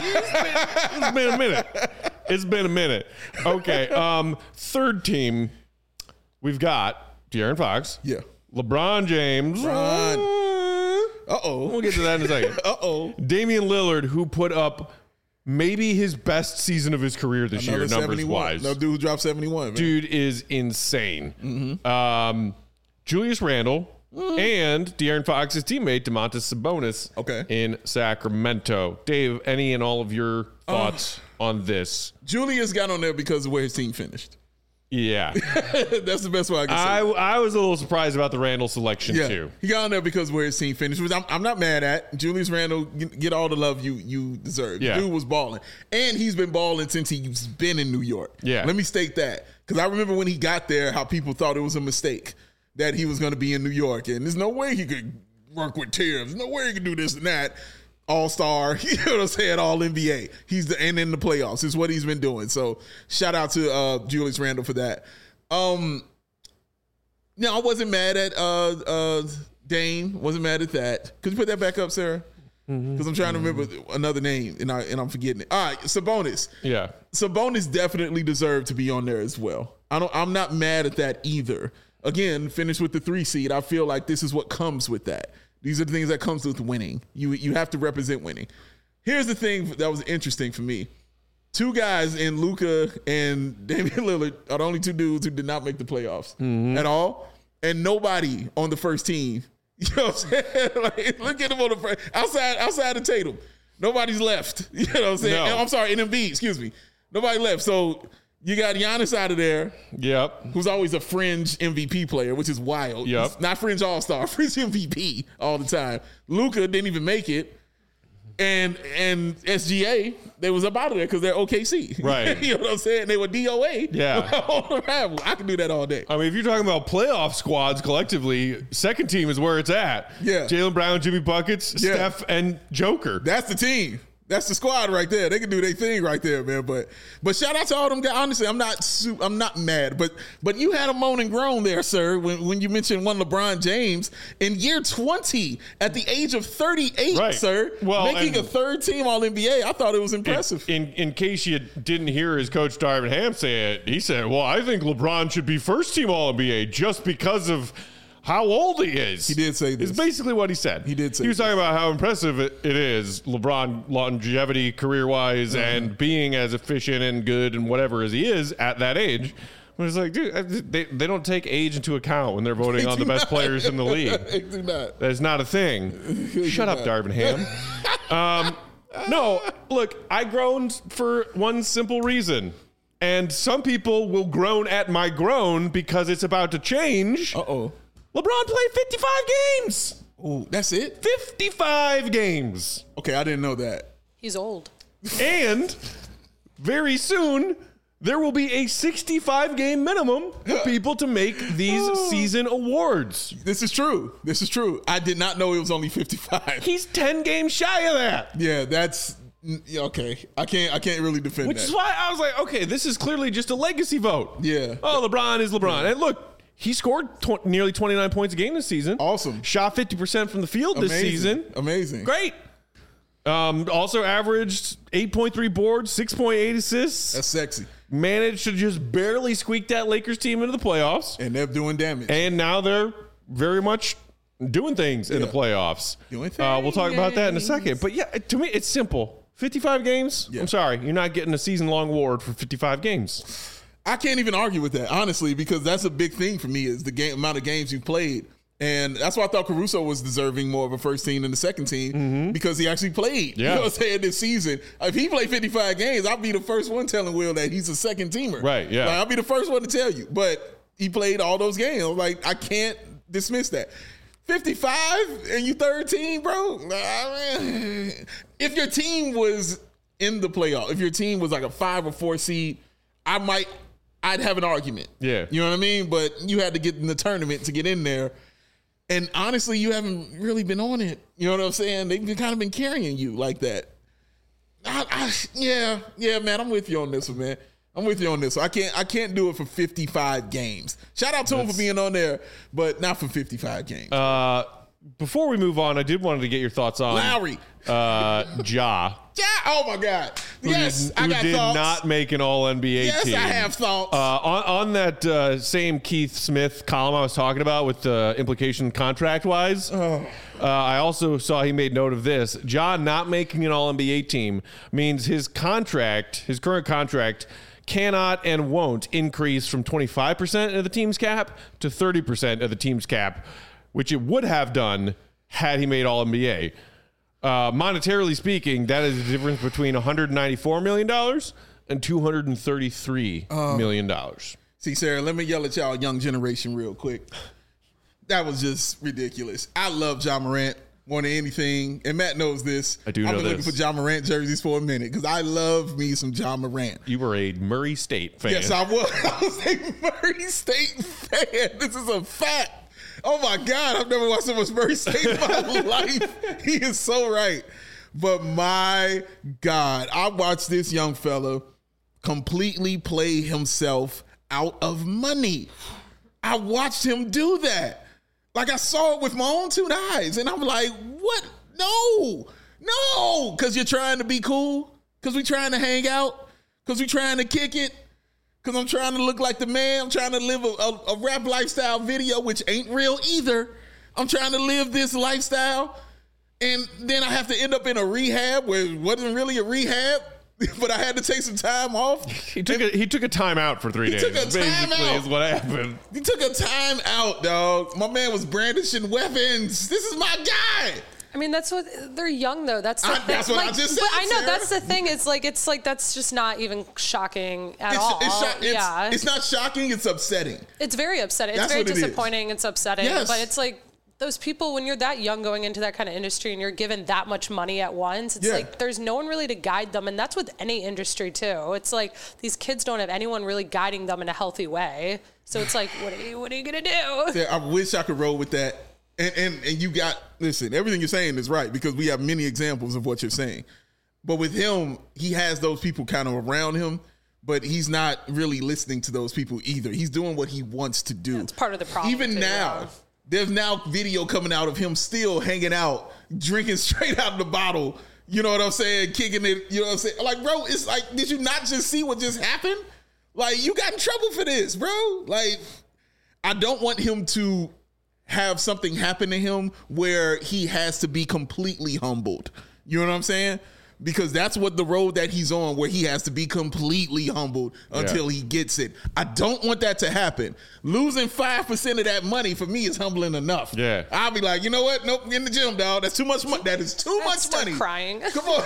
It's been a minute. It's been a minute. Okay. Um, third team, we've got De'Aaron Fox. Yeah. LeBron James. LeBron. Uh We'll oh. get to that in a second. Uh oh. Damian Lillard, who put up maybe his best season of his career this year, numbers wise. No dude who dropped seventy-one. Man. Dude is insane. Mm-hmm. Um, Julius Randle and De'Aaron Fox's teammate DeMontis Sabonis Okay. in Sacramento. Dave, any and all of your thoughts on this? Julius got on there because of where his team finished. Yeah, That's the best way I can say. I, I was a little surprised about the Randle selection Yeah, too. he got on there because where his team finished, which I'm, I'm not mad at. Julius Randle, get, get all the love you you deserve. Yeah. Dude was balling, and he's been balling since he's been in New York. Yeah. let me state that because I remember when he got there, how people thought it was a mistake that he was going to be in New York, and there's no way he could work with Tibbs. There's no way he could do this and that. All star, you know what I'm saying? All N B A. He's the and in the playoffs is what he's been doing. So shout out to uh, Julius Randle for that. Um, no, I wasn't mad at uh, uh, Dame. Wasn't mad at that. Could you put that back up, Sarah? Because I'm trying to remember another name and I and I'm forgetting it. All right, Sabonis. Yeah, Sabonis definitely deserved to be on there as well. I don't. I'm not mad at that either. Again, finished with the three seed. I feel like this is what comes with that. These are the things that comes with winning. You you have to represent winning. Here's the thing that was interesting for me. Two guys in Luka and Damian Lillard are the only two dudes who did not make the playoffs at all. And nobody on the first team, You know what I'm saying? Like, look at him on the outside outside of Tatum. Nobody's left. You know what I'm saying? No. I'm sorry, and Embiid, excuse me. Nobody left. So you got Giannis out of there, Yep. who's always a fringe M V P player, which is wild. Yep. He's not fringe all-star, fringe M V P all the time. Luka didn't even make it. And and S G A, they was up out of there because they're O K C. Right. You know what I'm saying? They were D O A. Yeah. On arrival. I can do that all day. I mean, if you're talking about playoff squads collectively, second team is where it's at. Yeah. Jaylen Brown, Jimmy Buckets, Yeah. Steph, and Joker. That's the team. That's the squad right there. They can do their thing right there, man. But but shout out to all them guys. Honestly, I'm not su- I'm not mad. But but you had a moan and groan there, sir, when, when you mentioned one LeBron James in year twenty at the age of thirty-eight, Right. sir, Well, making a and- third team All N B A. I thought it was impressive. In, in in case you didn't hear his coach Darvin Ham say it, he said, "Well, I think LeBron should be first team All N B A just because of how old he is." He did say this. It's basically what he said. He did say He was this. talking about how impressive it, it is, LeBron longevity career wise, Uh-huh. and being as efficient and good and whatever as he is at that age. But it's like, dude, they, they don't take age into account when they're voting on the best players in the league. They do not. That's not a thing. Shut up, Darvin Ham. um, no, look, I groaned for one simple reason. And some people will groan at my groan because it's about to change. Uh-oh. LeBron played fifty-five games. Ooh, that's it? fifty-five games. Okay, I didn't know that. He's old. And very soon, there will be a sixty-five game minimum for people to make these season awards. This is true. This is true. I did not know it was only fifty-five. He's ten games shy of that. Yeah, that's yeah, okay. I can't I can't really defend Which that. is why I was like, okay, this is clearly just a legacy vote. Yeah. Oh, LeBron is LeBron. And look, he scored tw- nearly twenty-nine points a game this season. Awesome. Shot fifty percent from the field this Amazing. season. Amazing. Great. Um, also averaged eight point three boards, six point eight assists. That's sexy. Managed to just barely squeak that Lakers team into the playoffs. And they're doing damage. And now they're very much doing things in Yeah. the playoffs. Doing Uh, we'll talk about that in a things. second. But yeah, to me, it's simple. fifty-five games? Yeah. I'm sorry. You're not getting a season-long award for fifty-five games. I can't even argue with that, honestly, because that's a big thing for me is the game, amount of games you played. And that's why I thought Caruso was deserving more of a first team than the second team because he actually played. Yeah. You know what I'm saying? This season. If he played fifty-five games, I'll be the first one telling Will that he's a second teamer. Right, yeah. Like, I'll be the first one to tell you. But he played all those games. Like, I can't dismiss that. fifty-five and you third team, bro? Nah, man. If your team was in the playoff, if your team was like a five or four seed, I might, I'd have an argument. Yeah. You know what I mean? But you had to get in the tournament to get in there. And honestly, you haven't really been on it. You know what I'm saying? They've been, kind of been carrying you like that. I, I, yeah, yeah, man. I'm with you on this one, man. I'm with you on this one. I can't, I can't do it for fifty-five games. Shout out to him for being on there, but not for fifty-five games. Uh, before we move on, I did want to get your thoughts on Lowry. uh, Ja. Yeah. Oh my God. Who Yes, did, I who got did thoughts. not make an All N B A yes, team. I have thoughts. Uh, on, on that uh, same Keith Smith column I was talking about with the implication contract wise, Oh. uh, I also saw he made note of this. John not making an All N B A team means his contract, his current contract, cannot and won't increase from twenty-five percent of the team's cap to thirty percent of the team's cap, which it would have done had he made All N B A. Uh, monetarily speaking, that is the difference between one hundred ninety-four million dollars and two hundred thirty-three million dollars. See, Sarah, let me yell at y'all young generation real quick. That was just ridiculous. I love Ja Morant more than anything, and Matt knows this. I do I've know been looking this. for Ja Morant jerseys for a minute because I love me some Ja Morant. You were a Murray State fan. Yes, I was. I was a Murray State fan. This is a fact. Oh my God, I've never watched so much Murray State in my life. He is so right. But my God, I watched this young fella completely play himself out of money. I watched him do that. Like I saw it with my own two eyes. And I'm like, what? No, no. Because you're trying to be cool. Because we trying to hang out. Because we trying to kick it. Because I'm trying to look like the man. I'm trying to live a, a, a rap lifestyle video, which ain't real either. I'm trying to live this lifestyle. And then I have to end up in a rehab where it wasn't really a rehab. but I had to take some time off. He took a, he took a time out for three He days. took a time basically, out. is what happened. He took a time out, dog. My man was brandishing weapons. This is my guy. I mean, that's what they're young though. That's the I- thing. that's what I Like, just but said, I know Sarah. that's the thing. It's like it's like that's just not even shocking at It's, all. it's, sho- it's, yeah, it's not shocking. It's upsetting. It's very upsetting. It's That's very what it is. disappointing. It's upsetting. Yes. But it's like those people, when you're that young going into that kind of industry and you're given that much money at once, it's Yeah. like there's no one really to guide them. And that's with any industry too. It's like these kids don't have anyone really guiding them in a healthy way. So it's like, what are you, what are you going to do? Yeah, I wish I could roll with that. And, and and you got, listen, everything you're saying is right because we have many examples of what you're saying. But with him, he has those people kind of around him, but he's not really listening to those people either. He's doing what he wants to do. It's part of the problem. Even too, now, yeah. there's now video coming out of him still hanging out, drinking straight out of the bottle. You know what I'm saying? Kicking it. You know what I'm saying? Like, bro, it's like, did you not just see what just happened? Like, you got in trouble for this, bro. Like, I don't want him to have something happen to him where he has to be completely humbled. You know what I'm saying? Because that's what the road that he's on, where he has to be completely humbled until Yeah. he gets it. I don't want that to happen. Losing five percent of that money for me is humbling enough. Yeah. I'll be like, you know what? Nope, in the gym, dog. That's too much money. That is too I'd much start money. crying. Come on.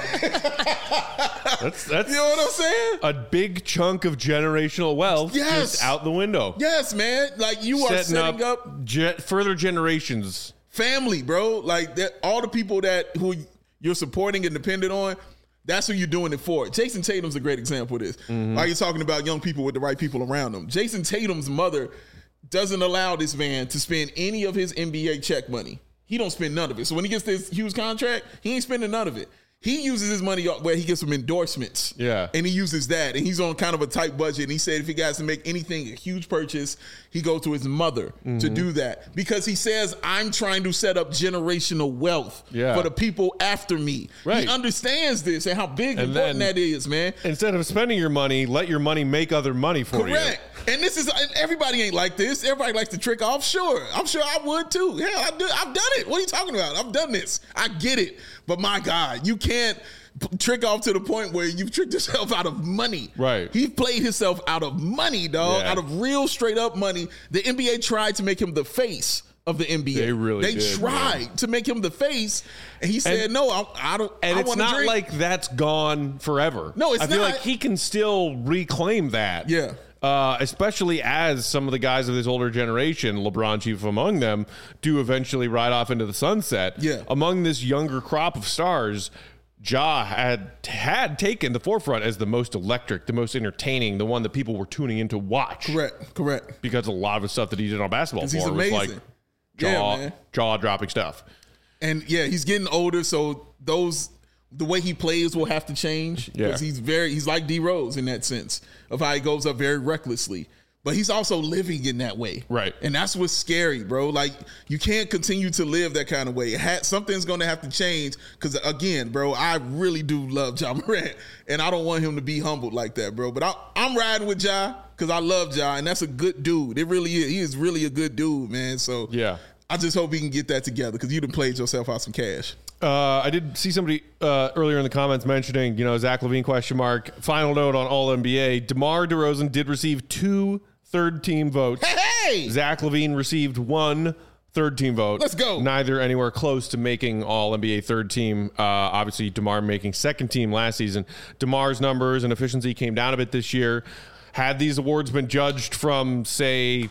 That's that's You know what I'm saying? a big chunk of generational wealth Yes. just out the window. Yes, man. Like, you are Setting setting up, up ge- further generations. family, bro. Like that, all the people that who you're supporting and dependent on, that's who you're doing it for. Jason Tatum's a great example of this. Mm-hmm. Like, you're talking about young people with the right people around them. Jason Tatum's mother doesn't allow this man to spend any of his N B A check money. He don't spend none of it. So when he gets this huge contract, he ain't spending none of it. He uses his money where he gets some endorsements. Yeah. And he uses that. And he's on kind of a tight budget. And he said if he got to make anything, a huge purchase, he goes to his mother Mm-hmm. to do that. Because he says, I'm trying to set up generational wealth Yeah. for the people after me. Right. He understands this and how big and And important then- that is, man. Instead of spending your money, let your money make other money for Correct. And this is, and everybody ain't like this. Everybody likes to trick off. Sure. I'm sure I would too. Hell, I do, I've done it. What are you talking about? I've done this. I get it. But my God, you can't p- trick off to the point where you've tricked yourself out of money. Right. He played himself out of money, dog. Yeah. Out of real straight up money. The N B A tried to make him the face of the N B A. They really They did, tried to make him the face. And he said, And- no, I, I don't. And I it's wanna not drink. like that's gone forever. No, it's I feel not. like he can still reclaim that. Yeah. Uh, especially as some of the guys of this older generation, LeBron chief among them, do eventually ride off into the sunset. Yeah. Among this younger crop of stars, Ja had had taken the forefront as the most electric, the most entertaining, the one that people were tuning in to watch. Correct. Correct. Because a lot of the stuff that he did on basketball 'Cause he's floor was amazing. like Yeah, jaw, man. jaw dropping stuff. And yeah, he's getting older, so those the way he plays will have to change Yeah. because he's very he's like D Rose in that sense of how he goes up very recklessly. But he's also living in that way, Right. And that's what's scary, bro. Like, you can't continue to live that kind of way. It ha- something's going to have to change because, again, bro, I really do love Ja Morant, and I don't want him to be humbled like that, bro. But I, I'm riding with Ja because I love Ja, and that's a good dude. It really is. He is really a good dude, man. So Yeah. I just hope he can get that together because you done played yourself out some cash. Uh, I did see somebody uh, earlier in the comments mentioning, you know, Zach LaVine question mark. Final note on All N B A: DeMar DeRozan did receive two third team votes. Hey! Zach LaVine received one third team vote. Let's go. Neither anywhere close to making All N B A third team. Uh, obviously, DeMar making second team last season. DeMar's numbers and efficiency came down a bit this year. Had these awards been judged from, say,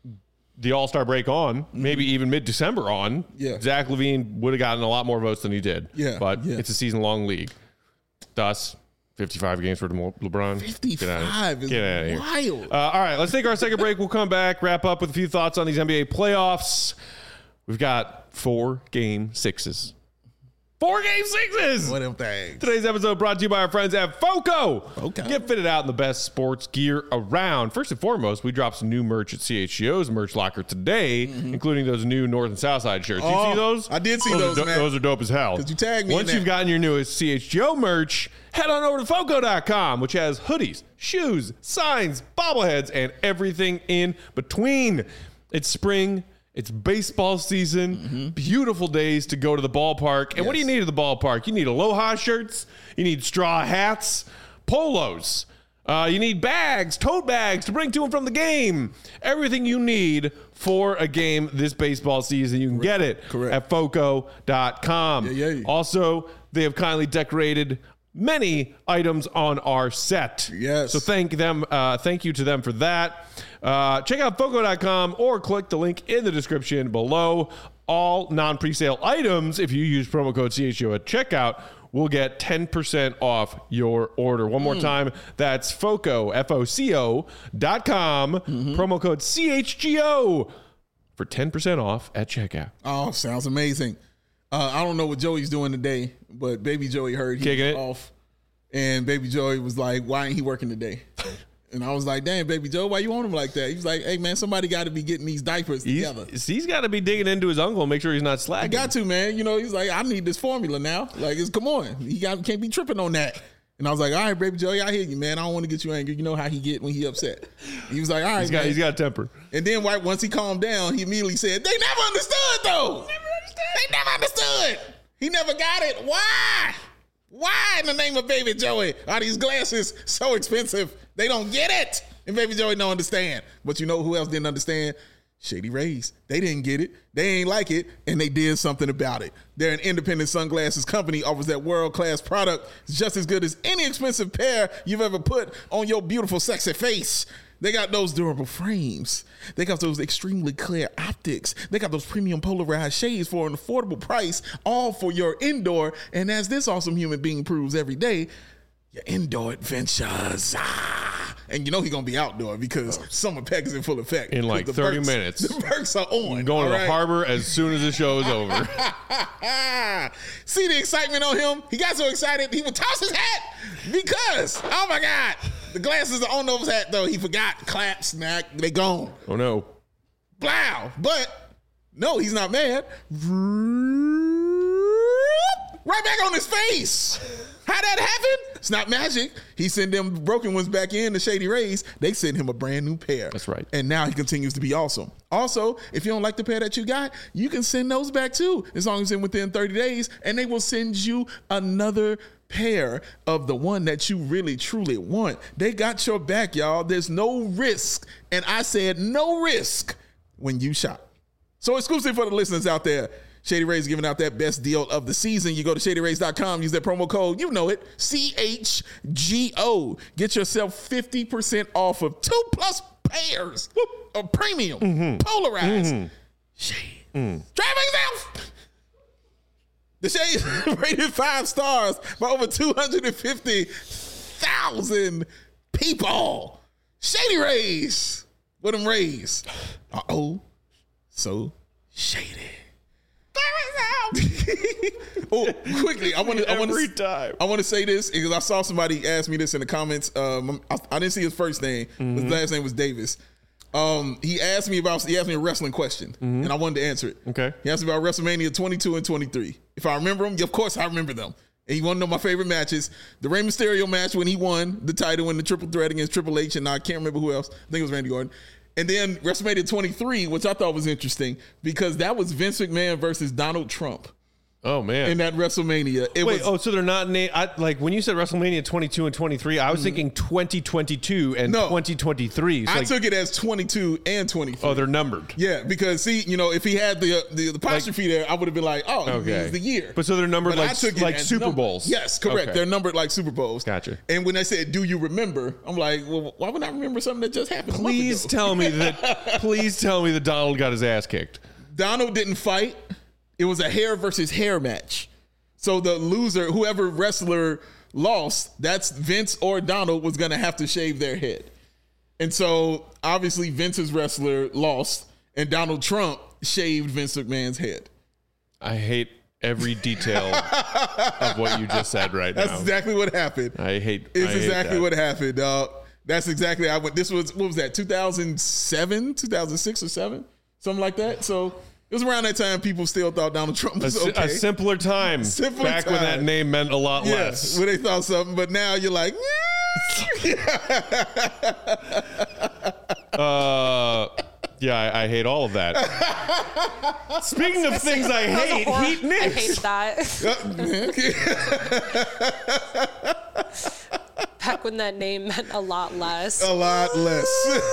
the All-Star break on, maybe even mid-December on, Yeah. Zach LaVine would have gotten a lot more votes than he did. Yeah, But yeah. it's a season-long league. Thus, fifty-five games for DeMar- LeBron. Get outta- fifty-five is Get outta here. wild. Uh, all right, let's take our second break. We'll come back, wrap up with a few thoughts on these N B A playoffs. We've got four game sixes. Four game sixes! What them things? Today's episode brought to you by our friends at FOCO. FOCO. Get fitted out in the best sports gear around. First and foremost, we dropped some new merch at C H G O's merch locker today, including those new North and South Side shirts. Oh, you see those? I did see those. those, are do- man. Those are dope as hell. 'Cause you tagged me in Once that. you've gotten your newest C H G O merch, head on over to foco dot com, which has hoodies, shoes, signs, bobbleheads, and everything in between. It's spring. It's baseball season, mm-hmm. beautiful days to go to the ballpark. And yes. what do you need at the ballpark? You need Aloha shirts, you need straw hats, polos. Uh, you need bags, tote bags to bring to and from the game. Everything you need for a game this baseball season, you can Correct. get it Correct. at foco dot com. Yeah, yeah. Also, they have kindly decorated many items on our set. Yes. So thank them. Uh, thank you to them for that. Uh, check out foco dot com or click the link in the description below. All non-presale items, if you use promo code C H O at checkout, will get ten percent off your order. One more mm. time, that's Foco, F O C O dot com, mm-hmm. promo code C H G O for ten percent off at checkout. Oh, sounds amazing. Uh, I don't know what Joey's doing today, but Baby Joey heard he Kicking was it. off. And Baby Joey was like, why ain't he working today? And I was like, damn, Baby Joe, why you on him like that? He was like, hey, man, somebody got to be getting these diapers He's, together. He's got to be digging into his uncle and make sure he's not slacking. I got to, man. You know, he's like, I need this formula now. Like, it's come on. He got can't be tripping on that. And I was like, all right, Baby Joey, I hear you, man. I don't want to get you angry. You know how he get when he upset. He was like, all right, he's got, man. He's got a temper. And then right, once he calmed down, he immediately said, they never understood, though. Never understood. They never understood. He never got it. Why? Why in the name of Baby Joey are these glasses so expensive? They don't get it. And Baby Joey don't understand. But you know who else didn't understand? Shady Rays. They didn't get it. They ain't like it, and they did something about it. They're an independent sunglasses company, offers that world-class product. It's just as good as any expensive pair you've ever put on your beautiful, sexy face. They got those durable frames. They got those extremely clear optics. They got those premium polarized shades for an affordable price, all for your indoor. And as this awesome human being proves every day, your indoor adventures. Ah. And you know he's going to be outdoor because summer pack is in full effect. In like thirty Berks, minutes. The Berks are on. I'm going to right? the harbor as soon as the show is over. See the excitement on him? He got so excited he would toss his hat because, oh my God, the glasses are on over his hat though. He forgot. Clap, smack, they gone. Oh no. Blow. But no, he's not mad. Right back on his face. How that happened? It's not magic. He sent them broken ones back in, the Shady Rays. They sent him a brand new pair. That's right. And now he continues to be awesome. Also, if you don't like the pair that you got, you can send those back too, as long as it's within thirty days, and they will send you another pair of the one that you really, truly want. They got your back, y'all. There's no risk. And I said no risk when you shop. So exclusive for the listeners out there, Shady Rays giving out that best deal of the season. You go to shady rays dot com, use that promo code, you know it, C H G O. Get yourself fifty percent off of two plus pairs whoop, of premium, mm-hmm. polarized mm-hmm. shade. Mm. Driving yourself. The shade rated five stars by over two hundred fifty thousand people. Shady Rays. What them rays? Uh-oh. So shady. Oh, quickly! I want to. I want Every to. time. I want to say this because I saw somebody ask me this in the comments. Um, I, I didn't see his first name. Mm-hmm. His last name was Davis. Um, he asked me about. He asked me a wrestling question, mm-hmm. and I wanted to answer it. Okay. He asked me about WrestleMania twenty-two and twenty-three. If I remember them, of course I remember them. And he wanted to know my favorite matches. The Rey Mysterio match when he won the title in the triple threat against Triple H, and I can't remember who else. I think it was Randy Orton. And then WrestleMania twenty-three, which I thought was interesting because that was Vince McMahon versus Donald Trump. Oh man! In that WrestleMania, it wait. was, Oh, so they're not na- I, like when you said WrestleMania twenty-two and twenty-three. I was mm-hmm. thinking twenty twenty-two and no, twenty twenty-three. So I like, took it as twenty-two and twenty-three. Oh, they're numbered. Yeah, because see, you know, if he had the uh, the, the apostrophe like, there, I would have been like, oh, okay, it's the year. But so they're numbered but like like Super numbered. Bowls. Yes, correct. Okay. They're numbered like Super Bowls. Gotcha. And when they said, "Do you remember?" I'm like, well, why would I remember something that just happened? Please tell me that. Please tell me that Donald got his ass kicked. Donald didn't fight. It was a hair versus hair match. So the loser, whoever wrestler lost, that's Vince or Donald was going to have to shave their head. And so obviously Vince's wrestler lost and Donald Trump shaved Vince McMahon's head. I hate every detail of what you just said right that's now. That's exactly what happened. I hate It's I hate exactly that. what happened, dog. That's exactly I went. This was, what was that, two thousand seven, two thousand six or seven? Something like that. So it was around that time people still thought Donald Trump was a, okay. A simpler time. Simpler back time. when that name meant a lot yeah, less. when they thought something, but now you're like, uh, Yeah, I, I hate all of that. Speaking of things I That was a hate, horror- Heat I Knicks. hated that. Back when that name meant a lot less. A lot less.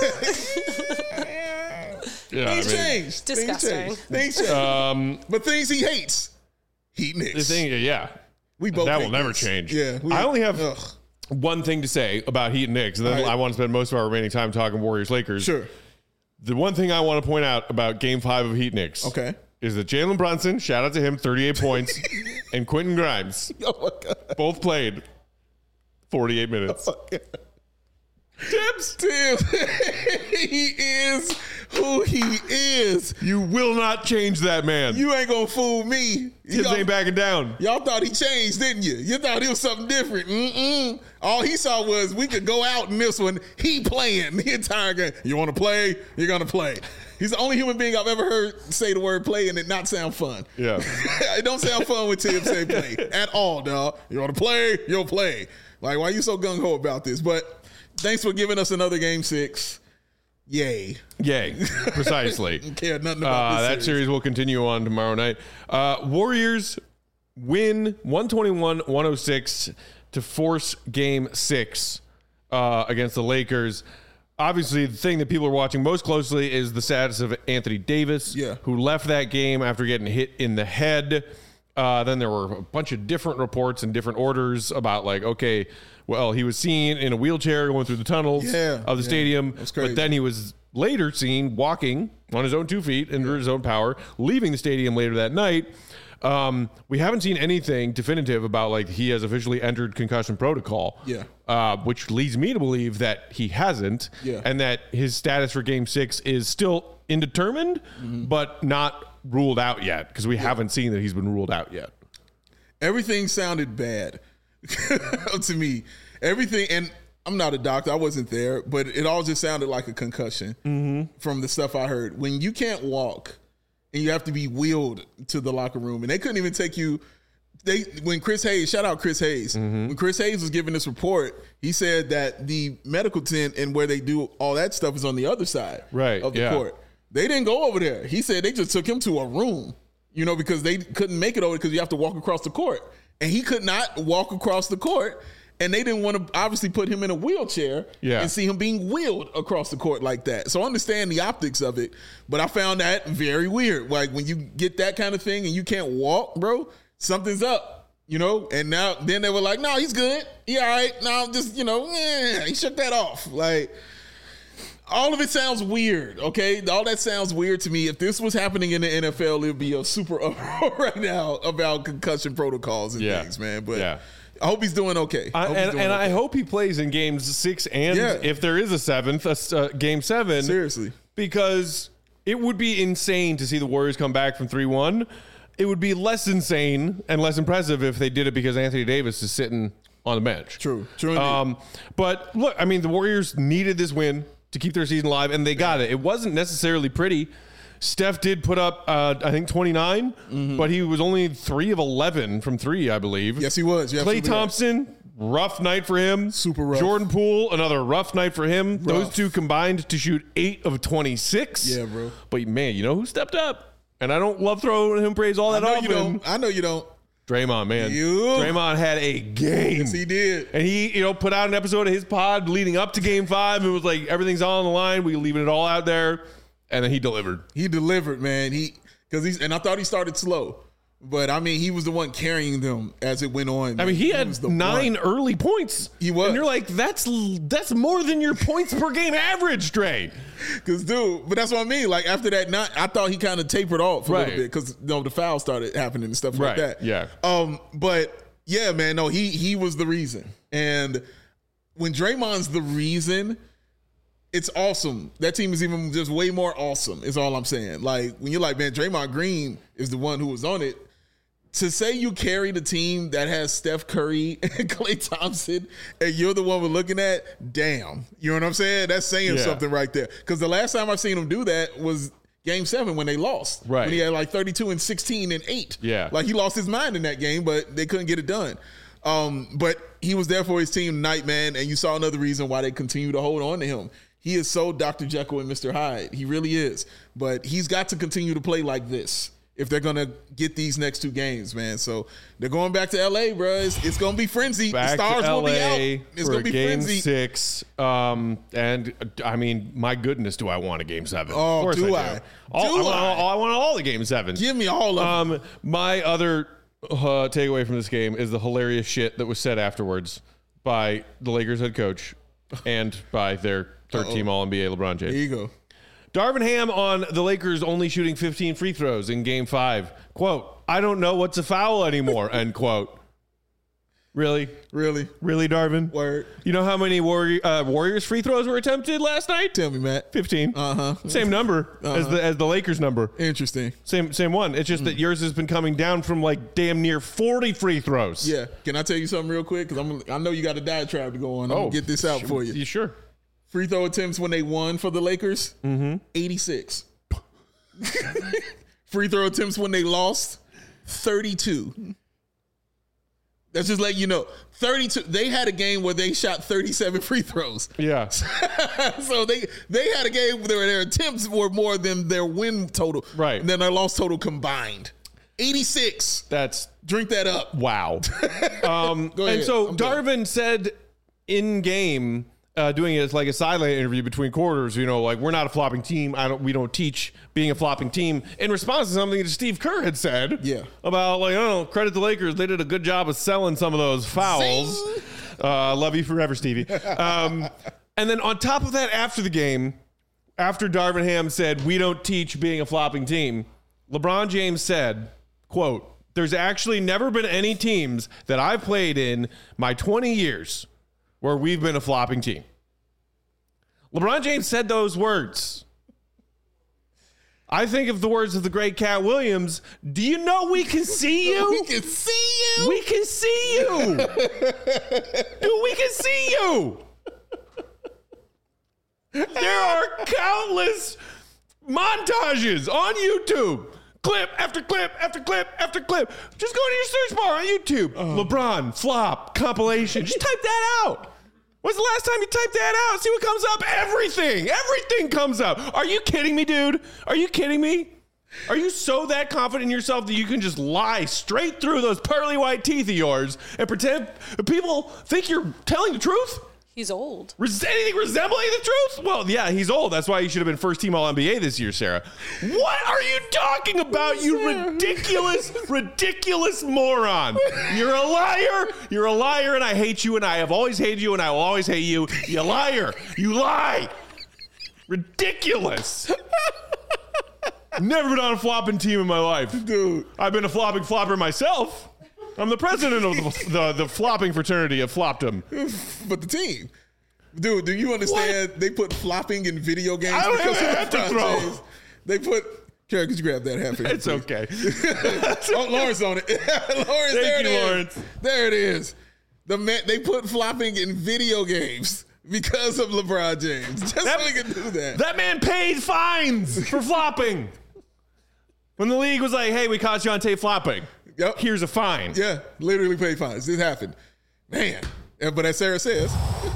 Yeah, I Things mean, changed. Disgusting. Things changed. Things changed. Um, but things he hates. Heat Knicks. the thing, yeah, we both that hate will never Knicks. change. Yeah. we- I only have ugh. one thing to say about Heat and Knicks, and then All right. I want to spend most of our remaining time talking Warriors Lakers. Sure. The one thing I want to point out about Game Five of Heat Knicks, Okay. is that Jalen Brunson, shout out to him, thirty-eight points, and Quentin Grimes Oh my God. both played forty-eight minutes. Tibbs, Tim, he is who he is. you will not change that man. You ain't gonna fool me. Tibbs Y'all, ain't backing down. y'all thought he changed, didn't you? You thought he was something different. Mm-mm. All he saw was we could go out in this one. He playing the entire game. You want to play? You're gonna play. He's the only human being I've ever heard say the word play and it not sound fun. Yeah. It don't sound fun when Tim say play at all, dog. You want to play? You'll play. Like, why you so gung ho about this? But thanks for giving us another game six. Yay. Yay. Precisely. Care nothing about Uh, this that series. series will continue on tomorrow night. Uh, Warriors win one twenty-one one oh six to force game six uh, against the Lakers. Obviously, the thing that people are watching most closely is the status of Anthony Davis, Yeah. who left that game after getting hit in the head. Uh, then there were a bunch of different reports and different orders about, like, okay, well, he was seen in a wheelchair going through the tunnels Yeah, of the yeah. stadium, That's crazy. but then he was later seen walking on his own two feet under his own power, leaving the stadium later that night. Um, we haven't seen anything definitive about, like, he has officially entered concussion protocol. Yeah. Uh, which leads me to believe that he hasn't. Yeah. And that his status for game six is still indetermined, Mm-hmm. but not ruled out yet, because we haven't seen that he's been ruled out yet. Everything sounded bad to me. Everything, and I'm not a doctor, I wasn't there, but it all just sounded like a concussion Mm-hmm. from the stuff I heard. When you can't walk and you have to be wheeled to the locker room, and they couldn't even take you. They when Chris Hayes, shout out Chris Hayes, Mm-hmm. when Chris Hayes was giving this report, he said that the medical tent and where they do all that stuff is on the other side Right, of the yeah. court. They didn't go over there. He said they just took him to a room, you know, because they couldn't make it over because you have to walk across the court. And he could not walk across the court. And they didn't want to obviously put him in a wheelchair Yeah. and see him being wheeled across the court like that. So I understand the optics of it, but I found that very weird. Like when you get that kind of thing and you can't walk, bro, something's up, you know? And now, then they were like, no, he's good. He all right. No, just, you know, eh, he shook that off. Like, all of it sounds weird, okay? All that sounds weird to me. If this was happening in the N F L, it would be a super uproar right now about concussion protocols and Yeah. things, man. But Yeah. I hope he's doing okay. I, hope he's and doing and I okay. hope he plays in games six and, Yeah. if there is a seventh, a s- uh, game seven. Seriously. Because it would be insane to see the Warriors come back from three one. It would be less insane and less impressive if they did it because Anthony Davis is sitting on the bench. True. True indeed. Um, but look, I mean, the Warriors needed this win to keep their season alive, and they got it. It wasn't necessarily pretty. Steph did put up, uh, I think, twenty-nine, but he was only three of eleven from three, I believe. Yes, he was. You're Klay absolutely right. Thompson, rough night for him. Super rough. Jordan Poole, another rough night for him. Those Rough. two combined to shoot eight of twenty-six. Yeah, bro. But man, you know who stepped up? And I don't love throwing him praise all I that know often. you don't. I know you don't. Draymond, man. You. Draymond had a game. Yes, he did. And he, you know, put out an episode of his pod leading up to game five. It was like everything's all on the line. We leaving it all out there. And then he delivered. He delivered, man. He because he's and I thought he started slow, but I mean he was the one carrying them as it went on. I mean, he had was the nine one. early points. He was. And you're like, that's that's more than your points per game average, Dre. Cause dude, but that's what I mean. Like after that night, I thought he kind of tapered off a Right. little bit because you know, the foul started happening and stuff Right, like that. yeah. Um, but yeah, man, no, he he was the reason. And when Draymond's the reason, it's awesome. That team is even just way more awesome, is all I'm saying. Like when you're like, man, Draymond Green is the one who was on it. To say you carry the team that has Steph Curry and Klay Thompson and you're the one we're looking at, damn. You know what I'm saying? That's saying Yeah. something right there. Because the last time I've seen him do that was game seven when they lost. Right. When he had like thirty-two and sixteen and eight. Yeah. Like he lost his mind in that game, but they couldn't get it done. Um, but he was there for his team tonight, man. And you saw another reason why they continue to hold on to him. He is so Doctor Jekyll and Mister Hyde. He really is. But he's got to continue to play like this if they're going to get these next two games, man. So they're going back to L A, bro. It's, it's going to be frenzy. Back the stars to will be L A out. It's for going to be game frenzy. six. Um, and uh, I mean, my goodness, do I want a game seven? Oh, of course do I? I? Do. All, Do I, want, I? all- I want all the game sevens. Give me all of them. Um, my other uh, takeaway from this game is the hilarious shit that was said afterwards by the Lakers head coach and by their third-team All N B A LeBron James. There you go. Darvin Ham on the Lakers only shooting fifteen free throws in game five. Quote, I don't know what's a foul anymore, end quote. Really? Really? Really, Darvin? Word. You know how many Warrior, uh, Warriors free throws were attempted last night? Tell me, Matt. fifteen. Uh-huh. Same number as the as the Lakers number. Interesting. Same same one. It's just that yours has been coming down from like damn near forty free throws. Yeah. Can I tell you something real quick? Because I'm I know you got a diatribe to go on. I'm Oh, gonna get this out for you. You sure? Free throw attempts when they won for the Lakers, mm-hmm. eighty-six. Free throw attempts when they lost, thirty-two. That's just letting you know. thirty-two. They had a game where they shot thirty-seven free throws. Yeah. So they they had a game where their attempts were more than their win total. Right. Than their loss total combined. eighty-six. That's Drink that up. wow. Um, Go ahead. and so I'm done. Darvin said in game, uh, doing it as like a sideline interview between quarters, you know, like we're not a flopping team. I don't. We don't teach being a flopping team. In response to something that Steve Kerr had said, Yeah. about like, oh, credit the Lakers, they did a good job of selling some of those fouls. Zing. Uh, love you forever, Stevie. Um, and then on top of that, after the game, after Darvin Ham said we don't teach being a flopping team, LeBron James said, "quote There's actually never been any teams that I've played in my twenty years." Where we've been a flopping team. LeBron James said those words. I think of the words of the great Cat Williams. Do you know we can see you? We can see you. We can see you. Dude, we can see you. There are countless montages on YouTube. Clip after clip after clip after clip. Just go to your search bar on YouTube. LeBron flop compilation. Just type that out. When's the last time you typed that out? See what comes up? Everything. Everything comes up. Are you kidding me, dude? Are you kidding me? Are you so that confident in yourself that you can just lie straight through those pearly white teeth of yours and pretend people think you're telling the truth? He's old. Res- anything resembling the truth? Well, yeah, he's old. That's why he should have been first team All N B A this year, Sarah. What are you talking about, you ridiculous, ridiculous moron? You're a liar. You're a liar, and I hate you, and I have always hated you, and I will always hate you. You liar. You lie. Ridiculous. Never been on a flopping team in my life. Dude. I've been a flopping flopper myself. I'm the president of the, the, the flopping fraternity of Flopdom. But the team. Dude, do you understand they put flopping in video games? I don't because have of a hat to LeBron throw. James? They put... Karen, could you grab that hat for me? It's please? okay. Oh, Lawrence on it. Lawrence, there Thank it you, is. Lawrence. There it is. The man, they put flopping in video games because of LeBron James. Just That- so he can do that. That man paid fines for flopping. When the league was like, hey, we caught you on tape flopping. Yep. Here's a fine. Yeah, literally pay fines. This happened. Man. Yeah, but as Sarah says,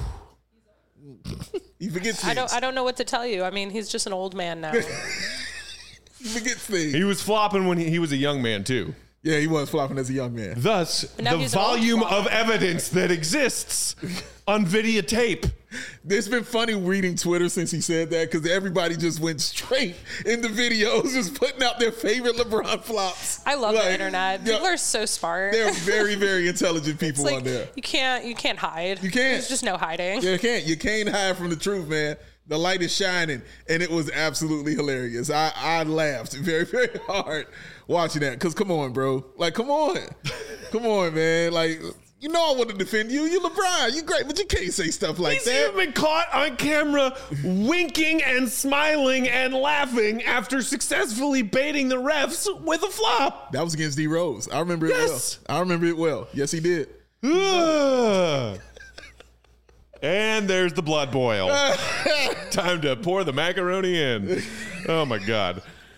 he forgets things. I don't. I don't know what to tell you. I mean, he's just an old man now. He forgets things. He was flopping when he, he was a young man, too. Yeah, he was flopping as a young man. Thus, now the he's an old volume flopper. of evidence that exists on videotape. It's been funny reading Twitter since he said that because everybody just went straight into videos, just putting out their favorite LeBron flops. I love Like, the internet. yeah, People are so smart. They're very, very intelligent It's people like on there. you can't. You can't hide. You can't. There's just no hiding. You can't. You can't hide from the truth, man. The light is shining, and it was absolutely hilarious. I, I laughed very, very hard watching that. Cause come on, bro. Like, come on, come on, man. Like, you know, I want to defend you. You LeBron. You great, but you can't say stuff like He's that. even been caught on camera winking and smiling and laughing after successfully baiting the refs with a flop. That was against D Rose. I remember it Yes. well. I remember it well. Yes, he did. Ugh. And there's the blood boil. Time to pour the macaroni in. Oh, my God.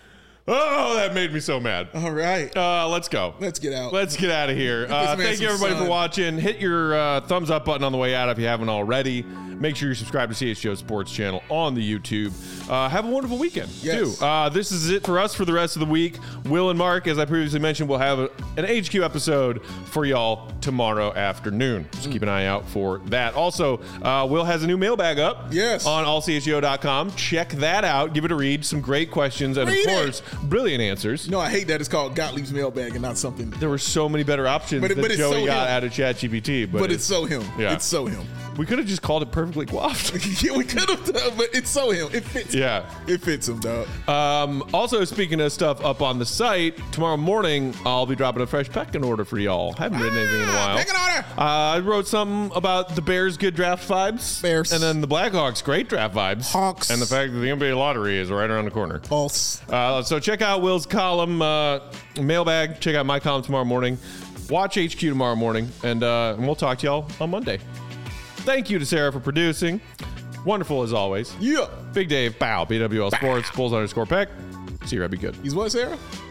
Oh, that made me so mad. All right. Uh, let's go. Let's get out. Let's get out of here. Uh, man thank you, some everybody, sun. for watching. Hit your uh, thumbs up button on the way out if you haven't already. Make sure you subscribe to C H G O Sports channel on the YouTube. Uh, have a wonderful weekend, Yes. too. Uh, this is it for us for the rest of the week. Will and Mark, as I previously mentioned, will have a, an H Q episode for y'all tomorrow afternoon. Just keep an eye out for that. Also, uh, Will has a new mailbag up Yes. on all c h g o dot com. Check that out. Give it a read. Some great questions and, Read of it. course, brilliant answers. No, I hate that it's called Gottlieb's mailbag and not something. There were so many better options But it- that but it's Joey so got him. out of ChatGPT. But, But it's so him. Yeah. It's so him. we could have just called it Perfectly Coiffed. Yeah, we could have done, but it's so him. It fits. Yeah. It fits him, dog. Um, also, speaking of stuff up on the site, tomorrow morning I'll be dropping a fresh pecking order for y'all. Haven't written anything in a while. Pecking order. Uh, I wrote something about the Bears' good draft vibes. Bears. And then the Blackhawks' great draft vibes. Hawks. And the fact that the N B A lottery is right around the corner. False. Uh, so check out Will's column, uh, mailbag. Check out my column tomorrow morning. Watch H Q tomorrow morning. And, uh, and we'll talk to y'all on Monday. Thank you to Sarah for producing. Wonderful as always. Yeah. Big Dave, bow, B W L Sports, Bulls underscore Peck. See you, right? Be good. He's what, Sarah?